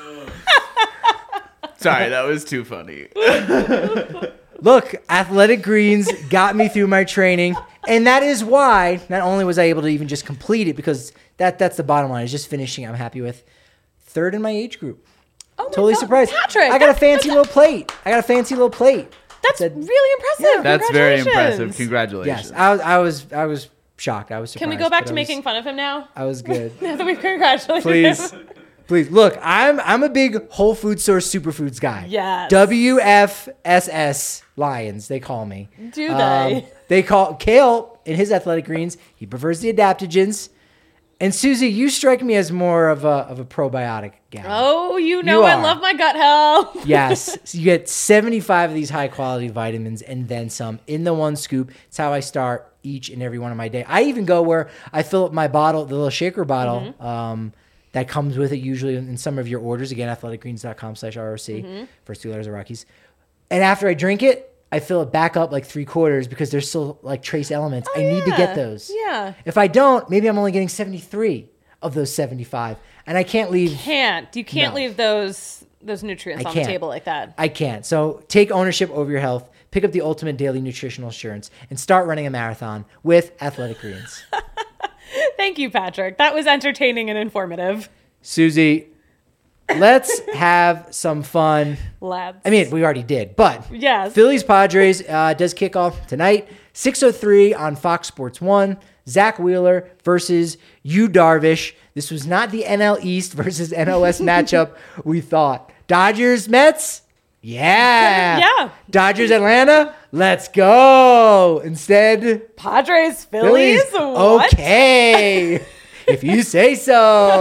Sorry, that was too funny. Look, Athletic Greens got me through my training. And that is why not only was I able to even just complete it, because that that's the bottom line, is just finishing, I'm happy with. Third in my age group. Oh my Totally God. surprised. Patrick, I got a that's- fancy that's- little plate. I got a fancy little plate. That's Said- really impressive. That's very Congratulations. impressive. Congratulations. Yes, I was, I was, I was shocked. I was surprised. Can we go back but to I was- making fun of him now? I was good. Now that we've congratulated Please, him. please look. I'm, I'm a big Whole Food Source superfoods guy. Yes. W F S S Lions, they call me. Do Um, they? they call Kale in his Athletic Greens. He prefers the adaptogens. And Susie, you strike me as more of a of a probiotic gal. Oh, you know You I are. love my gut health. Yes. So you get seventy-five of these high quality vitamins and then some in the one scoop. It's how I start each and every one of my day. I even go where I fill up my bottle, the little shaker bottle Mm-hmm. um, that comes with it usually in some of your orders. Again, athleticgreens.com slash ROC. Mm-hmm. First two letters of Rockies. And after I drink it, I fill it back up like three quarters because there's still like trace elements. I need to yeah. get those. Yeah. If I don't, maybe I'm only getting seventy-three of those seventy-five. And I can't leave. Can't. You can't No. leave those those nutrients I on can't. the table like that. I can't. So take ownership over your health, pick up the ultimate daily nutritional assurance, and start running a marathon with Athletic Greens. Thank you, Patrick. That was entertaining and informative. Susie, let's have some fun. Lads. I mean, we already did, but Yes. Phillies Padres uh, does kick off tonight, six oh three on Fox Sports one. Zach Wheeler versus Yu Darvish. This was not the N L East versus N L West matchup we thought. Dodgers, Mets? Yeah. Yeah. Dodgers, Atlanta? Let's go. Instead, Padres, Phillies? Phillies? What? Okay. If you say so.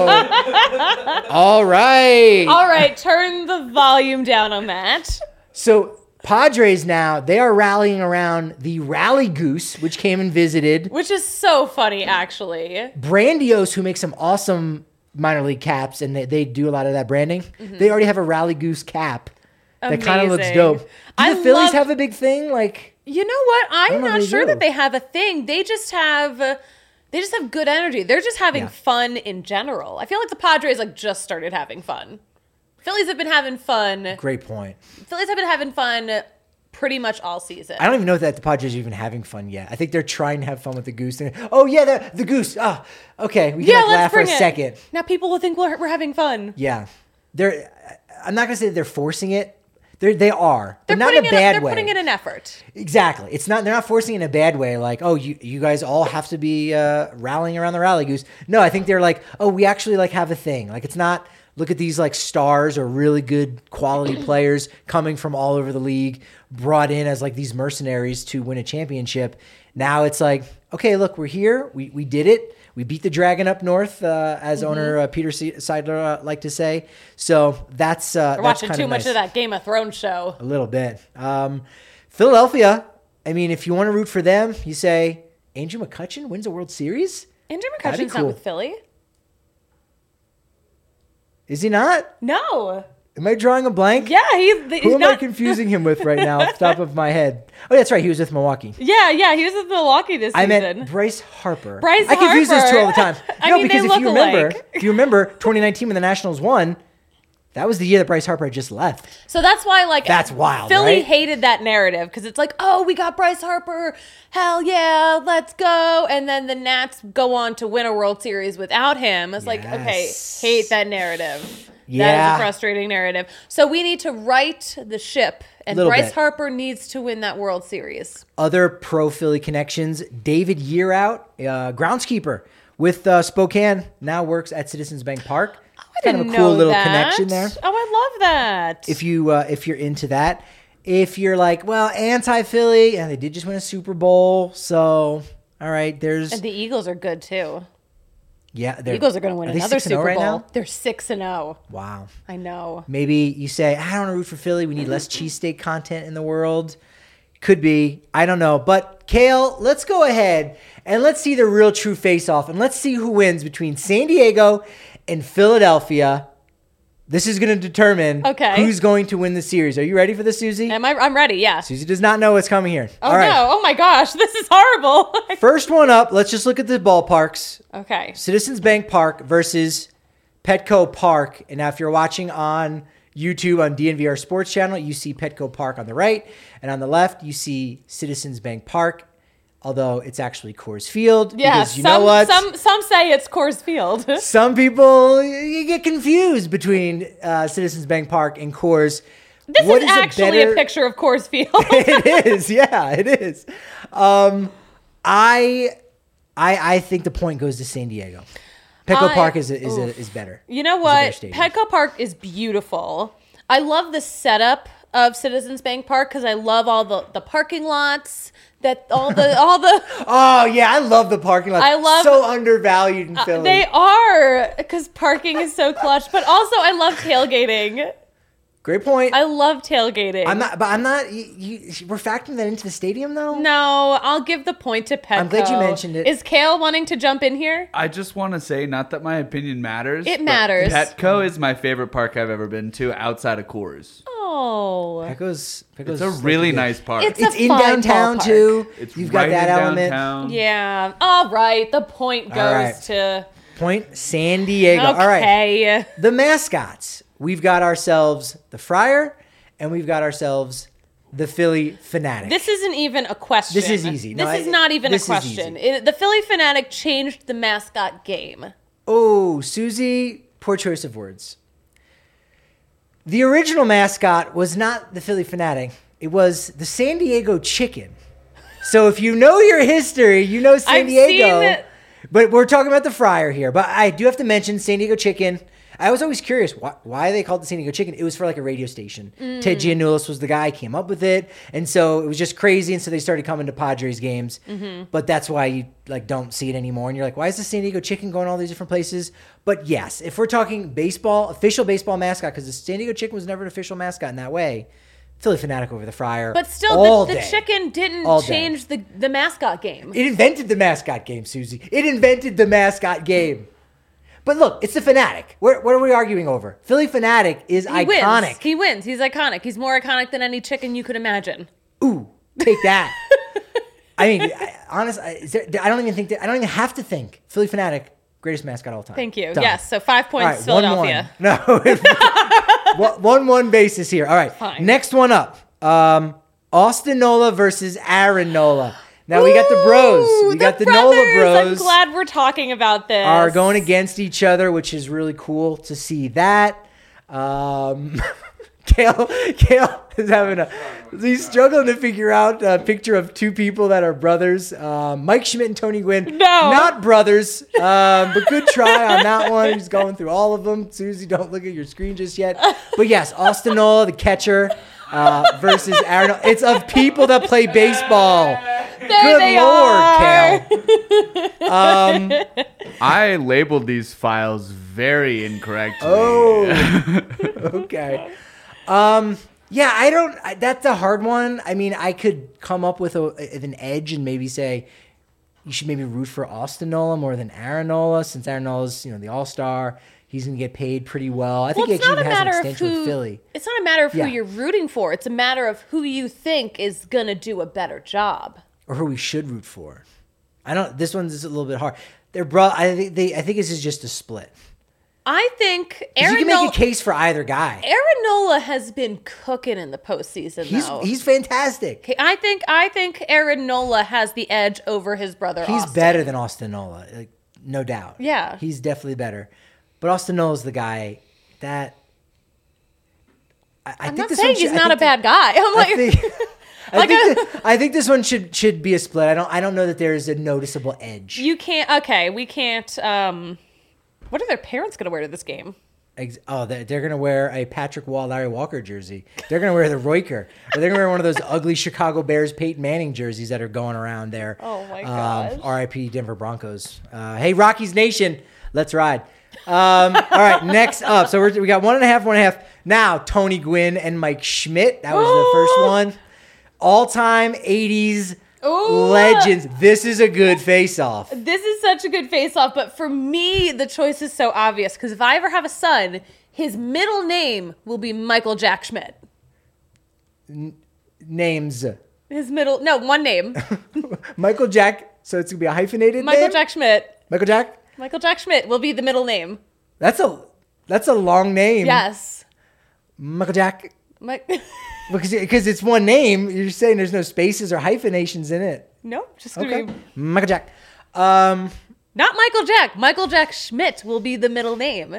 All right. All right, turn the volume down on that. So Padres now, they are rallying around the Rally Goose, which came and visited. Which is so funny, actually. Brandios, who makes some awesome minor league caps, and they, they do a lot of that branding. They already have a Rally Goose cap that kind of looks Amazing. dope. Do I the Phillies love- have a big thing? Like, You know what? don't I'm know if not they sure do. that they have a thing. They just have uh, they just have good energy. They're just having Yeah. fun in general. I feel like the Padres like just started having fun. Phillies have been having fun. great point. Phillies have been having fun pretty much all season. I don't even know that the Padres are even having fun yet. I think they're trying to have fun with the goose. Thing. Oh yeah, the, the goose. Ah, okay. We can yeah, like let's laugh for a bring it. second. Now people will think we're, we're having fun. Yeah, they're. I'm not gonna say that they're forcing it. They they are. They're but not putting in a in bad they're way. putting in an effort. Exactly. It's not. They're not forcing it in a bad way. Like, oh, you you guys all have to be uh, rallying around the Rally Goose. No, I think they're like, oh, we actually like have a thing. Like, it's not. Look at these like stars or really good quality players coming from all over the league, brought in as like these mercenaries to win a championship. Now it's like, okay, look, we're here. We we did it. We beat the dragon up north, uh, as Mm-hmm. owner uh, Peter Se- Seidler uh, liked to say. So that's uh, We're that's watching kinda too much nice. of that Game of Thrones show. A little bit. Um, Philadelphia, I mean, if you want to root for them, you say Andrew McCutchen wins a World Series? Andrew That'd be McCutcheon's cool. not with Philly. Is he not? No. Am I drawing a blank? Yeah, he's, he's Who am not. I confusing him with right now off the top of my head? Oh, that's right. He was with Milwaukee. Yeah, yeah, he was with Milwaukee this I season. meant Bryce Harper. Bryce I confuse those two all the time. Harper. I no, mean, they because if look you remember, alike. if you remember twenty nineteen when the Nationals won, that was the year that Bryce Harper had just left. So that's why, like, That's wild, Philly right? hated that narrative because it's like, oh, we got Bryce Harper, hell yeah, let's go, and then the Nats go on to win a World Series without him. It's like, okay, Yes. hate that narrative. That Yeah. is a frustrating narrative. So we need to right the ship, and Little Bryce bit. Harper needs to win that World Series. Other pro Philly connections: David Yearout, uh, groundskeeper with uh, Spokane, now works at Citizens Bank Park. I kind of a didn't cool know little that. connection there. Oh, I love that. If you uh, if you're into that, if you're like, well, anti-Philly, and they did just win a Super Bowl, so all right, there's and the Eagles are good too. yeah, The Eagles are going to win are they another six and oh Super right Bowl. now? They're six and zero. Wow. I know. Maybe you say, I don't want to root for Philly. We need less cheesesteak content in the world. Could be. I don't know. But, Kale, let's go ahead and let's see the real true face-off. And let's see who wins between San Diego and Philadelphia. This is going to determine Okay. who's going to win the series. Are you ready for this, Susie? Am I? I'm ready. Yeah. Susie does not know what's coming here. Oh All right. no! Oh my gosh! This is horrible. First one up, let's just look at the ballparks. Okay. Citizens Bank Park versus Petco Park. And now if you're watching on YouTube on D N V R Sports Channel, you see Petco Park on the right. And on the left, you see Citizens Bank Park, although it's actually Coors Field. Yeah. Because you some know what? some some say it's Coors Field. Some people, you get confused between uh, Citizens Bank Park and Coors. This What is a actually better- a picture of Coors Field. It is. Yeah, it is. Um, I, I, I think the point goes to San Diego. Petco I- Park is is, is, oof. is better. You know It's a better what? stadium. Petco Park is beautiful. I love the setup of Citizens Bank Park because I love all the, the parking lots. That all the all the Oh yeah, I love the parking lot. I love- so undervalued in Philly. they are because parking is so clutch. But also I love tailgating. Great point. I love tailgating. I'm not, but I'm not. You, you, we're factoring that into the stadium though. No, I'll give the point to Petco. I'm glad you mentioned it. Is Kale wanting to jump in here? I just want to say, not that my opinion matters. It but matters. Petco is my favorite park I've ever been to outside of Coors. Oh, Petco's, Petco's It's a really good. nice park. It's It's a in fun downtown ballpark. too. It's You've right got that in element. downtown. yeah. All right. The point goes All right. to Point San Diego. okay. All right. The mascots. We've got ourselves the Friar, and we've got ourselves the Philly Fanatic. This isn't even a question. This is easy. This No, is I- not even a this is question. easy. It- the Philly Fanatic changed the mascot game. Oh, Susie, poor choice of words. The original mascot was not the Philly Fanatic. It was the San Diego Chicken. So if you know your history, you know San I've Diego. seen it. But we're talking about the fryer here. But I do have to mention San Diego Chicken. I was always curious, why, why they called it San Diego Chicken? It was for like a radio station. Mm. Ted Giannoulis was the guy, came up with it. And so it was just crazy. And so they started coming to Padres games. Mm-hmm. But that's why you like don't see it anymore. And you're like, why is the San Diego Chicken going all these different places? But yes, if we're talking baseball, official baseball mascot, because the San Diego Chicken was never an official mascot in that way, Philly Fanatic over the fryer. But still, all the, the day. chicken didn't All day. change the, the mascot game. It invented the mascot game, Susie. It invented the mascot game. But look, it's the Fanatic. What, what are we arguing over? Philly Fanatic is He iconic. wins. He wins. He's iconic. He's more iconic than any chicken you could imagine. Ooh, take that. I mean, I, honest, I, is there, I don't even think that, I don't even have to think. Philly Fanatic, greatest mascot of all time. Thank you. Done. Yes. So five All points, right, one, Philadelphia. one. No, one one basis here. All right, Fine. next one up. Um, Austin Nola versus Aaron Nola. Now we got the bros. Ooh, We got the, brothers. Nola bros. I'm glad we're talking about this. Are going against each other, which is really cool to see that. Um, Kale, Kale is having a, he's struggling to figure out a picture of two people that are brothers. Um, Mike Schmidt and Tony Gwynn. No. Not brothers, um, but good try on that one. He's going through all of them. Susie, don't look at your screen just yet. But yes, Austin Nola, the catcher, uh, versus Aaron Nola. It's of people that play baseball. There Good they Lord, are. Kale. Um, I labeled these files very incorrectly. Oh, okay. Um, yeah, I don't. I, that's a hard one. I mean, I could come up with a, with an edge and maybe say you should maybe root for Austin Nola more than Aaron Nola, since Aaron Nola's, you know, the All Star. He's gonna get paid pretty well. I think Well, he it's not actually a has an matter of extension who. with Philly. It's not a matter of Yeah. who you're rooting for. It's a matter of who you think is gonna do a better job. Or who we should root for. I don't. This one's a little bit hard. They're bro. I think they. I think this is just a split. I think 'Cause Aaron you can make Nola, a case for either guy. Aaron Nola has been cooking in the postseason. He's though. he's fantastic. Okay, I think I think Aaron Nola has the edge over his brother. He's Austin. better than Austin Nola, like, no doubt. Yeah. He's definitely better. But Austin Nola's the guy that. I, I I'm think not this saying one should- he's I not a think bad guy. I'm the- like, I think, I, Like think a- that- I think this one should should be a split. I don't. I don't know that there is a noticeable edge. you can't. Okay, we can't. Um, what are their parents gonna wear to this game? Ex- Oh, they're, they're gonna wear a Patrick Wall, Larry Walker jersey. They're gonna wear the Royker, or they're gonna wear one of those ugly Chicago Bears Peyton Manning jerseys that are going around there. Oh, my Um, gosh. R I P Denver Broncos. Uh, hey, Rockies Nation, let's ride. Um, all right, next up. So we're, we got one and a half, one and a half. Now Tony Gwynn and Mike Schmidt. That was the first one. All-time eighties Ooh. legends. This is a good face-off. This is such a good face-off, but for me, the choice is so obvious because if I ever have a son, his middle name will be Michael Jack Schmidt. Names. His middle, no, one name. Michael Jack. So it's gonna be a hyphenated Michael name. Jack Schmidt. Michael Jack. Michael Jack Schmidt will be the middle name. That's a that's a long name. Yes. Michael Jack. Mike. Because because it's one name. You're saying there's no spaces or hyphenations in it. no, just gonna Okay. be Michael Jack. Um. not Michael Jack. Michael Jack Schmidt will be the middle name.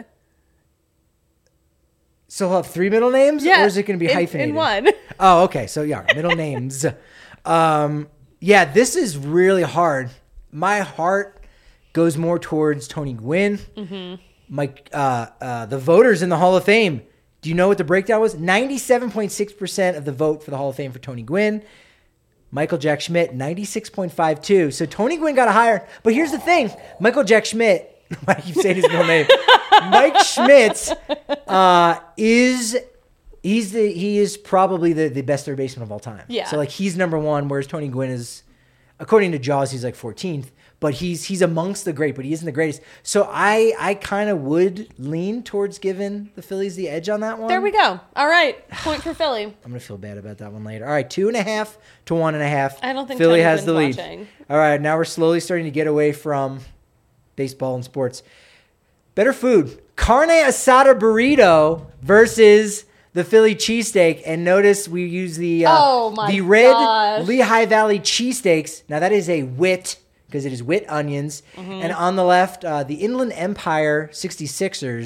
So he'll have three middle names, Yeah, or is it going to be in- hyphenated? in one. Oh, okay. So yeah, middle names. Um. Yeah, this is really hard. My heart goes more towards Tony Gwynn. Mm-hmm. Mike, uh, uh, the voters in the Hall of Fame. Do you know what the breakdown was? ninety-seven point six percent of the vote for the Hall of Fame for Tony Gwynn. Michael Jack Schmidt, ninety-six point five two. So Tony Gwynn got a higher. But here's the thing. Michael Jack Schmidt, why do you say his middle name? Mike Schmidt uh, is he's the he is probably the, the best third baseman of all time. Yeah. So like he's number one, whereas Tony Gwynn is, according to Jaws, he's like fourteenth. But he's he's amongst the great, but he isn't the greatest. So I I kind of would lean towards giving the Phillies the edge on that one. There we go. All right, point for Philly. I'm gonna feel bad about that one later. All right, two and a half to one and a half. I don't think Philly Tony has the lead. Gwynn's watching. All right, now we're slowly starting to get away from baseball and sports. Better food: carne asada burrito versus the Philly cheesesteak. And notice we use the uh, Oh my the red gosh. Lehigh Valley cheesesteaks. Now that is a wit because it is wit onions. Mm-hmm. And on the left, uh, the Inland Empire sixty-sixers.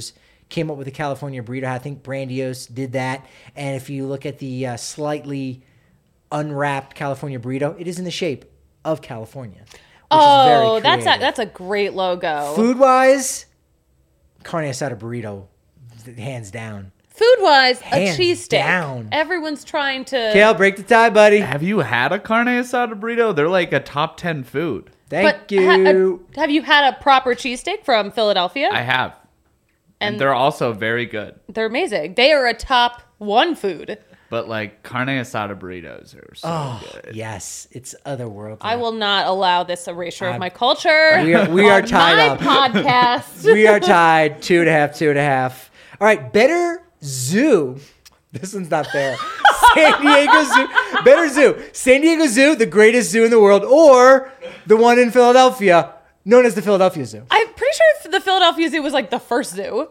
came up with the California burrito. I think Brandiose did that. And if you look at the uh, slightly unwrapped California burrito, it is in the shape of California. Which Oh, is very that's a, creative. that's a great logo. Food wise, carne asada burrito, hands down. Food wise, a Hands cheesesteak. down. Everyone's trying to. Kale, break the tie, buddy. Have you had a carne asada burrito? They're like a top ten food. Thank but you. ha- a- have you had a proper cheesesteak from Philadelphia? I have. And, And- they're also very good. They're amazing. They are a top one food. But like carne asada burritos are so oh, good. yes. It's otherworldly. I will not allow this erasure of I'm- my culture. We are, we are on tied my up. podcast. We are tied two and a half, two and a half. All right, better zoo. This one's not fair. San Diego Zoo. Better zoo. San Diego Zoo, the greatest zoo in the world, or the one in Philadelphia, known as the Philadelphia Zoo. I'm pretty sure the Philadelphia Zoo was like the first zoo.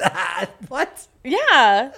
What? Yeah.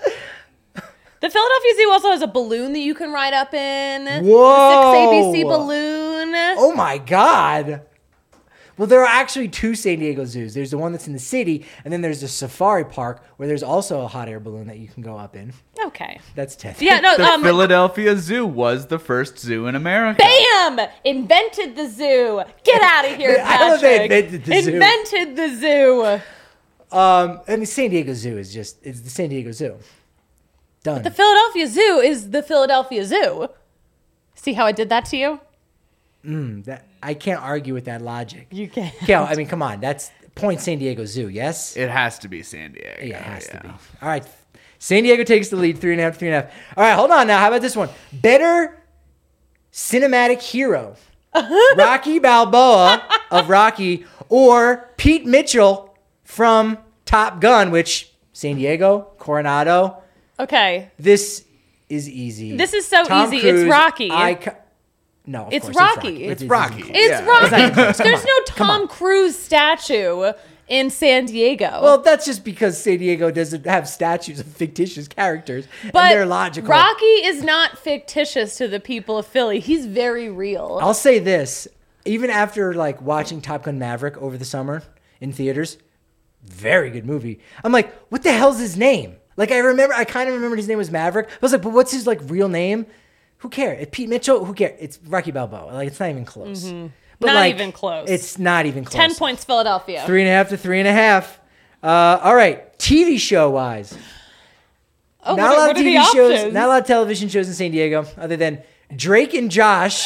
The Philadelphia Zoo also has a balloon that you can ride up in. Whoa. The six A B C balloon. Oh my God. Well, there are actually two San Diego zoos. There's the one that's in the city, and then there's the safari park where there's also a hot air balloon that you can go up in. Okay. That's ten. Yeah, no, The um, Philadelphia Zoo was the first zoo in America. bam! Invented the zoo. Get out of here, I don't know if they Patrick. invented the zoo. Invented the zoo. Um, I mean, San Diego Zoo is just, it's the San Diego Zoo. Done. The Philadelphia Zoo is the Philadelphia Zoo. See how I did that to you? Mm, that, I can't argue with that logic. You can. Kel, I mean, come on. That's point San Diego Zoo, yes? It has to be San Diego. Yeah, it has yeah. to be. All right. San Diego takes the lead, three and a half, three and a half. All right, hold on now. How about this one? Better cinematic hero. Rocky Balboa of Rocky or Pete Mitchell from Top Gun, which San Diego, Coronado. Okay. This is easy. This is so Tom easy. It's Cruise, Rocky. Ico- no, of It's course Rocky. It's It's Rocky. Rocky. It's Yeah. Rocky. There's no Come Tom on. Cruise statue in San Diego. Well, that's just because San Diego doesn't have statues of fictitious characters, but and they're logical. Rocky is not fictitious to the people of Philly. He's very real. I'll say this: even after like watching Top Gun Maverick over the summer in theaters, very good movie. I'm like, what the hell's his name? Like, I remember, I kind of remembered his name was Maverick. I was like, but what's his like real name? Who cares? Pete Mitchell? Who cares? It's Rocky Balboa. Like, it's not even close. But Mm-hmm. Not like, even close. It's not even close. Ten points, Philadelphia. Three and a half to three and a half. Uh, all right, T V show wise. Oh, Not what, a lot what of are T V the shows, options? not a lot of television shows in San Diego, other than Drake and Josh,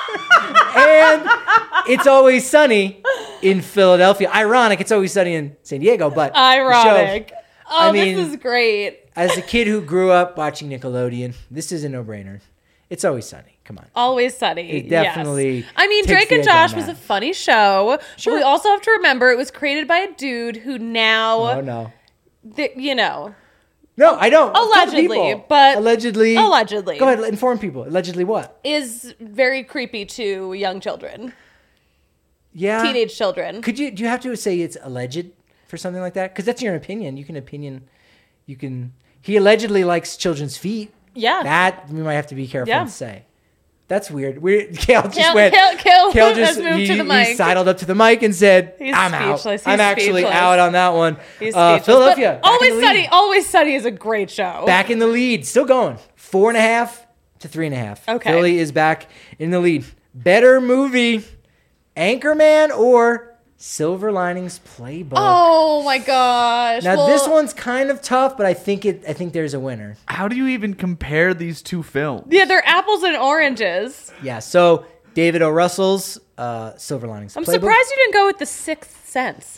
and It's Always Sunny in Philadelphia. Ironic, It's Always Sunny in San Diego, but the show- Ironic. Oh, I mean- this is great. as a kid who grew up watching Nickelodeon, this is a no-brainer. It's Always Sunny. Come on. Always Sunny. It definitely Yes. I mean, takes Drake the and edge on Josh was that. a funny show. Sure. But we also have to remember it was created by a dude who now, Oh no, th- you know, no, I don't. Tell Allegedly, people. but- allegedly, allegedly. Go ahead, inform people. Allegedly, what? is very creepy to young children, Yeah, teenage children. Could you? Do you have to say it's alleged for something like that? Because that's your opinion. You can opinion. You can. He allegedly likes children's feet. Yeah. That we might have to be careful Yeah. to say. That's weird. We Kale just Kale- went. Kale- Kale Kale has just moved he, to the he mic. sidled up to the mic and said, He's "I'm out. speechless. I'm He's actually speechless. out on that one." He's Uh, speechless. Philadelphia. But back in Always the lead. Sunny. Always Sunny is a great show. Back in the lead. Still going. Four and a half to three and a half. Okay. Philly is back in the lead. Better movie, Anchorman or Silver Linings Playbook? Oh my gosh. Now Well, this one's kind of tough, but I think it. I think there's a winner. How do you even compare these two films? Yeah, they're apples and oranges. Yeah. So David O. Russell's uh, Silver Linings I'm Playbook. surprised you didn't go with The Sixth Sense.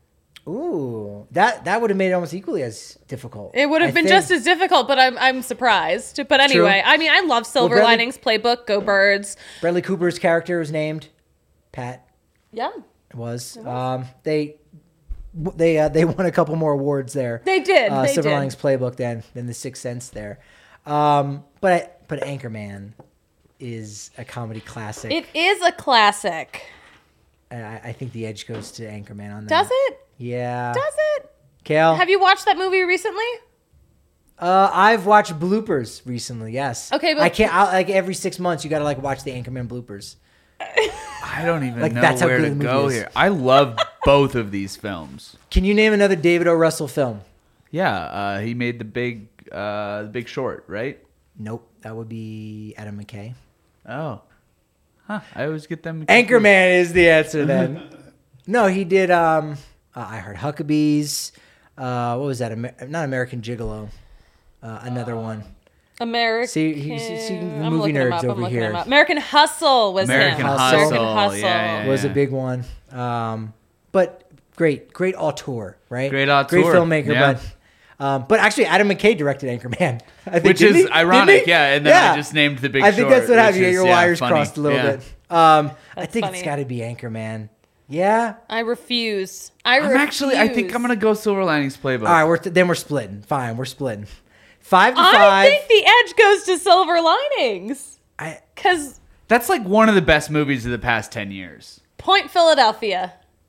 Ooh, that that would have made it almost equally as difficult. It would have I been think. just as difficult, but I'm I'm surprised. But anyway, I mean, I love Silver Bradley- Linings Playbook. Go Birds. Bradley Cooper's character was named Pat. Yeah, It was. Um, they they uh, they won a couple more awards there. they did. uh, they Silver did. Linings Playbook than than the Sixth Sense there. Um, but but Anchorman is a comedy classic. It is a classic. and I, I think the edge goes to Anchorman on that. Does it? Yeah. Does it? Kale? Have you watched that movie recently? Uh, I've watched bloopers recently. Yes. Okay, but- I can't. I, like every six months, you got to like watch the Anchorman bloopers. I don't even Like, know that's how where good to the movie go is. here. I love both of these films. Can you name another David O. Russell film? Yeah, uh, he made the big, uh, the Big Short, right? Nope, that would be Adam McKay. Oh, huh. I always get them. Anchorman is the answer then. No, he did. Um, uh, I Heard Huckabees. Uh, what was that? Amer- not American Gigolo. Uh, another one. American. See, he's, see the I'm movie looking him nerds up, I'm over looking here. him up. American Hustle was American him. Hustle. American Hustle, Hustle. yeah, yeah, Was yeah. a big one. Um, but great, great auteur, right? Great auteur, Great filmmaker, yeah. but. Um, but actually, Adam McKay directed Anchorman. I think, Which didn't is he? ironic, Didn't he? yeah. And then I just named the Big I think Short, that's what happened. which You get is, your yeah, wires funny. crossed a little Yeah. bit. Um, I That's think funny. it's got to be Anchorman. Yeah. I refuse. I I'm refuse. actually, I think I'm gonna go Silver Linings Playbook. All right. We're then we're splitting. Fine. We're splitting. Five to I five. think the edge goes to Silver Linings. I, Because That's like one of the best movies of the past ten years. Point Philadelphia.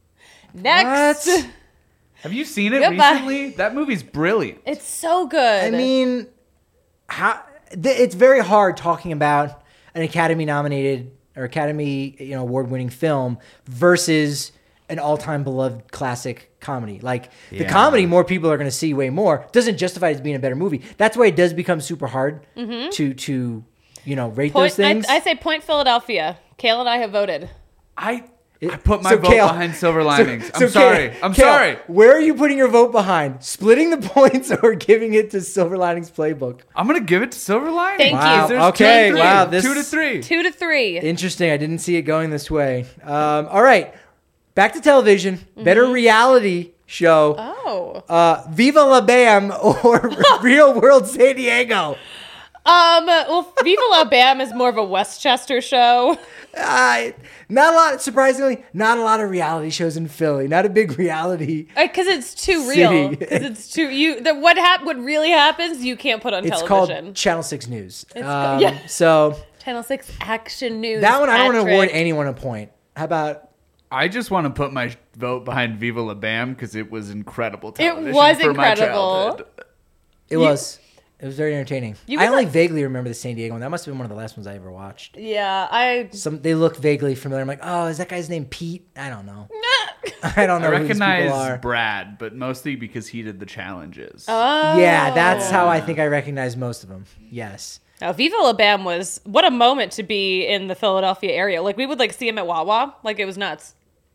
Next. What? Have you seen it Goodbye. recently? That movie's brilliant. It's so good. I mean, how th- it's very hard talking about an Academy nominated or Academy you know award winning film versus an all time beloved classic comedy. Like the Yeah. comedy, more people are going to see way more. Doesn't justify it as being a better movie. That's why it does become super hard to to you know rate Point, those things. I, I say Point Philadelphia. Kale and I have voted. I It- I put my so vote Kale- behind Silver so- Linings. so I'm Kale- sorry. I'm Kale, sorry. Where are you putting your vote behind? Splitting the points or giving it to Silver Linings Playbook? I'm gonna give it to Silver Linings. Thank you. Wow. There's Okay. two to three. Wow. This two to three. Two to three. Interesting. I didn't see it going this way. Um, all right. Back to television. Better reality show. oh. Uh, Viva La Bam or Real World San Diego. Um. Well, Viva La Bam is more of a Westchester show. Uh, not a lot, surprisingly, not a lot of reality shows in Philly. Not a big reality. Because it's too real. City. Because it's too you. The, what hap- What really happens, you can't put on It's television. called Channel six News. It's Um, co- yeah. So Channel Six Action News. that one, I don't want to Patrick. award anyone a point. How about I just want to put my vote behind Viva La Bam because it was incredible television. was for my incredible. childhood. it was? It was very entertaining. You I could only like- vaguely remember the San Diego one. That must have been one of the last ones I ever watched. Yeah, I. Some they look vaguely familiar. I'm like, oh, is that guy's name Pete? I don't know. I don't know I who these people recognize are. Brad, but mostly because he did the challenges. Oh. Yeah, that's how I think I recognize most of them. Yes. Now, Viva La Bam was what a moment to be in the Philadelphia area. Like we would like see him at Wawa. Like it was nuts.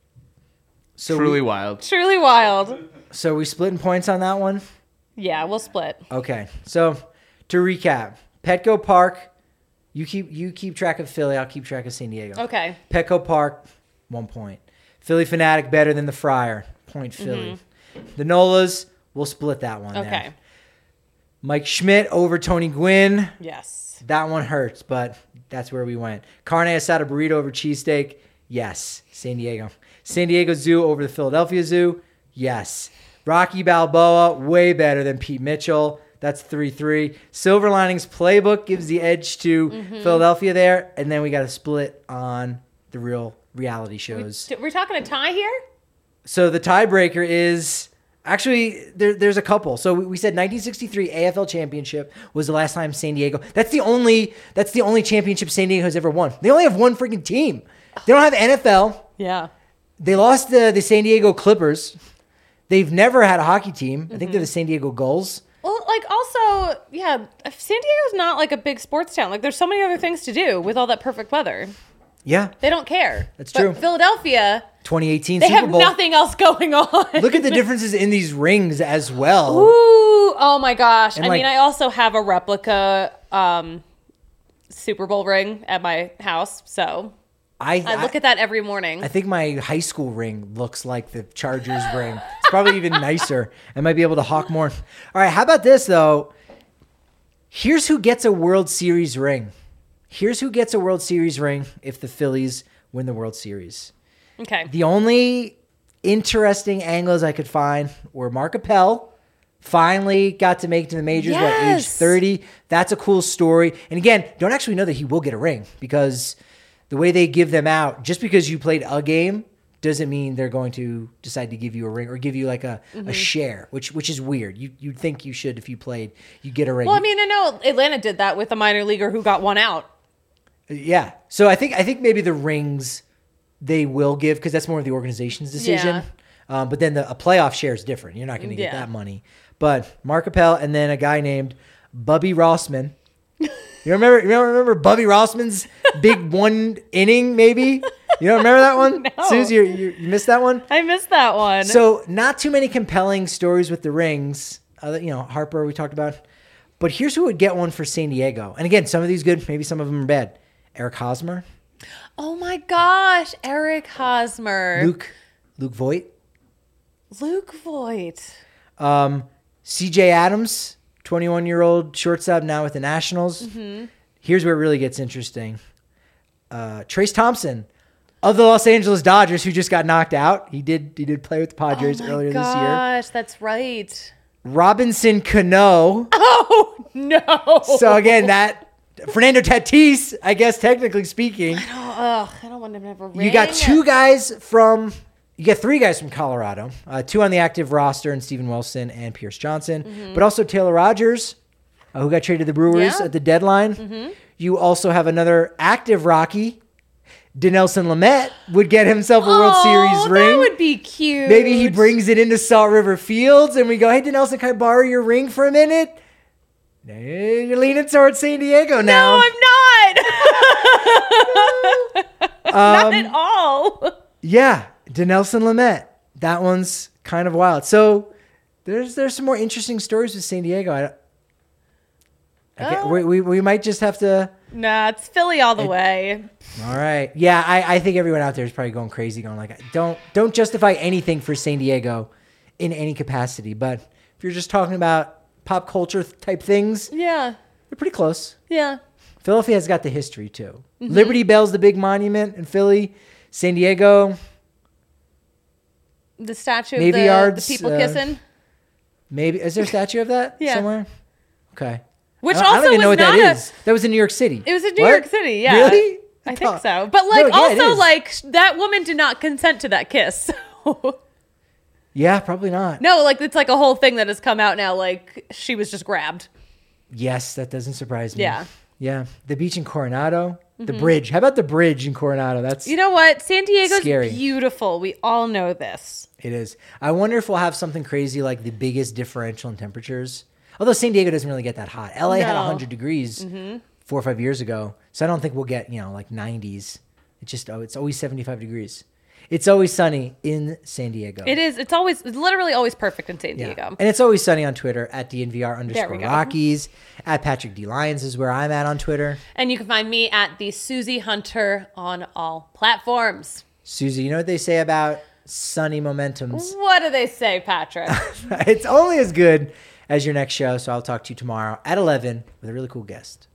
So Truly we, wild. Truly wild. so we splitting points on that one. Yeah, we'll split. Okay. So to recap, Petco Park. You keep you keep track of Philly. I'll keep track of San Diego. Okay. Petco Park, one point. Philly Fanatic better than the Friar. Point Philly. The Nolas, we'll split that one. Mm-hmm. Okay. There. Mike Schmidt over Tony Gwynn. Yes. That one hurts, but that's where we went. Carne asada burrito over cheesesteak. Yes. San Diego. San Diego Zoo over the Philadelphia Zoo. Yes. Rocky Balboa, way better than Pete Mitchell. That's three three. Silver Linings Playbook gives the edge to Mm-hmm. Philadelphia there. And then we got a split on the real reality shows. We're talking a tie here? So the tiebreaker is actually there, there's a couple. So we, we said nineteen sixty-three A F L championship was the last time San Diego. That's the only that's the only championship San Diego has ever won. They only have one freaking team. They don't have N F L. Yeah. They lost the the San Diego Clippers. They've never had a hockey team. I think Mm-hmm. they're the San Diego Gulls. Well, like also, yeah, San Diego's not like a big sports town. Like there's so many other things to do with all that perfect weather. Yeah, They don't care. That's But true. Philadelphia, twenty eighteen they Super have Bowl. nothing else going on. Look at the differences in these rings as well. Ooh, oh my gosh. And I like- mean, I also have a replica um, Super Bowl ring at my house, so I, I look at that every morning. I think my high school ring looks like the Chargers ring. It's probably even nicer. I might be able to hawk more. All right, how about this, though? Here's who gets a World Series ring. Here's who gets a World Series ring if the Phillies win the World Series. Okay. The only interesting angles I could find were Mark Appel finally got to make it to the majors at age Yes. thirty. That's a cool story. And again, don't actually know that he will get a ring because the way they give them out, just because you played a game doesn't mean they're going to decide to give you a ring or give you like a, Mm-hmm. a share, which which is weird. You you'd think you should if you played, you get a ring. Well, I mean, I know Atlanta did that with a minor leaguer who got one out. Yeah. So I think I think maybe the rings they will give because that's more of the organization's decision. Yeah. Um, but then the, a playoff share is different. You're not going to get Yeah. that money. But Mark Appel and then a guy named Bubby Rossman. You remember? You don't remember Bubby Rossman's big one inning? Maybe you don't remember that one. No. Susie, you, you you missed that one. I missed that one. So not too many compelling stories with the rings. Uh, you know, Harper we talked about. But here's who would get one for San Diego. And again, some of these good, maybe some of them are bad. Eric Hosmer, oh my gosh, Eric Hosmer. Luke, Luke Voigt, Luke Voigt. um, C J Adams, twenty-one-year-old shortstop now with the Nationals. Mm-hmm. Here's where it really gets interesting. Uh, Trace Thompson of the Los Angeles Dodgers, who just got knocked out. He did he did play with the Padres oh my earlier gosh, this year. Gosh, that's right. Robinson Cano. Oh no. So again, that Fernando Tatis, I guess technically speaking. Oh, ugh, I don't want to never ring. You got two guys from, you got three guys from Colorado, uh, two on the active roster, and Steven Wilson and Pierce Johnson, mm-hmm. but also Taylor Rogers, uh, who got traded to the Brewers yeah. at the deadline. Mm-hmm. You also have another active Rocky. Dinelson Lamet would get himself a World oh, Series ring. That would be cute. Maybe he brings it into Salt River Fields, and we go, hey, Dinelson, can I borrow your ring for a minute? Hey, you're leaning towards San Diego now. No, I'm not. Not Um, at all. Yeah, Dinelson Lamet. That one's kind of wild. So there's there's some more interesting stories with San Diego. I, I can't- Oh. we, we we might just have to. Nah, it's Philly all the way. All right. Yeah, I, I think everyone out there is probably going crazy, going like, don't don't justify anything for San Diego in any capacity. But if you're just talking about pop culture type things, Yeah. they're pretty close. Yeah. Philadelphia's got the history too. Mm-hmm. Liberty Bell's the big monument in Philly. San Diego, The statue Navy of the, Yards, the people uh, kissing. maybe. Is there a statue of that Yeah. somewhere? Okay. Which I don't, I also don't even know was what that not a- is. That was in New York City. It was in New What? York City, yeah. Really? I Oh. think so. But like No, yeah, it also is. like that woman did not consent to that kiss. So. Yeah, probably not. No, like it's like a whole thing that has come out now. Like she was just grabbed. Yes, that doesn't surprise me. Yeah. Yeah. The beach in Coronado. The bridge. How about the bridge in Coronado? That's You know what? San Diego's Scary. beautiful. We all know this. It is. I wonder if we'll have something crazy like the biggest differential in temperatures. Although San Diego doesn't really get that hot. L A had No. one hundred degrees four or five years ago. So I don't think we'll get, you know, like nineties. It's just, oh, it's always seventy-five degrees. It's always sunny in San Diego. It is. It's always, it's literally always perfect in San Yeah. Diego. And it's always sunny on Twitter at D N V R underscore go. Rockies. At Patrick D. Lyons is where I'm at on Twitter. And you can find me at the Susie Hunter on all platforms. Susie, you know what they say about sunny momentums? What do they say, Patrick? It's only as good as your next show. So I'll talk to you tomorrow at eleven with a really cool guest.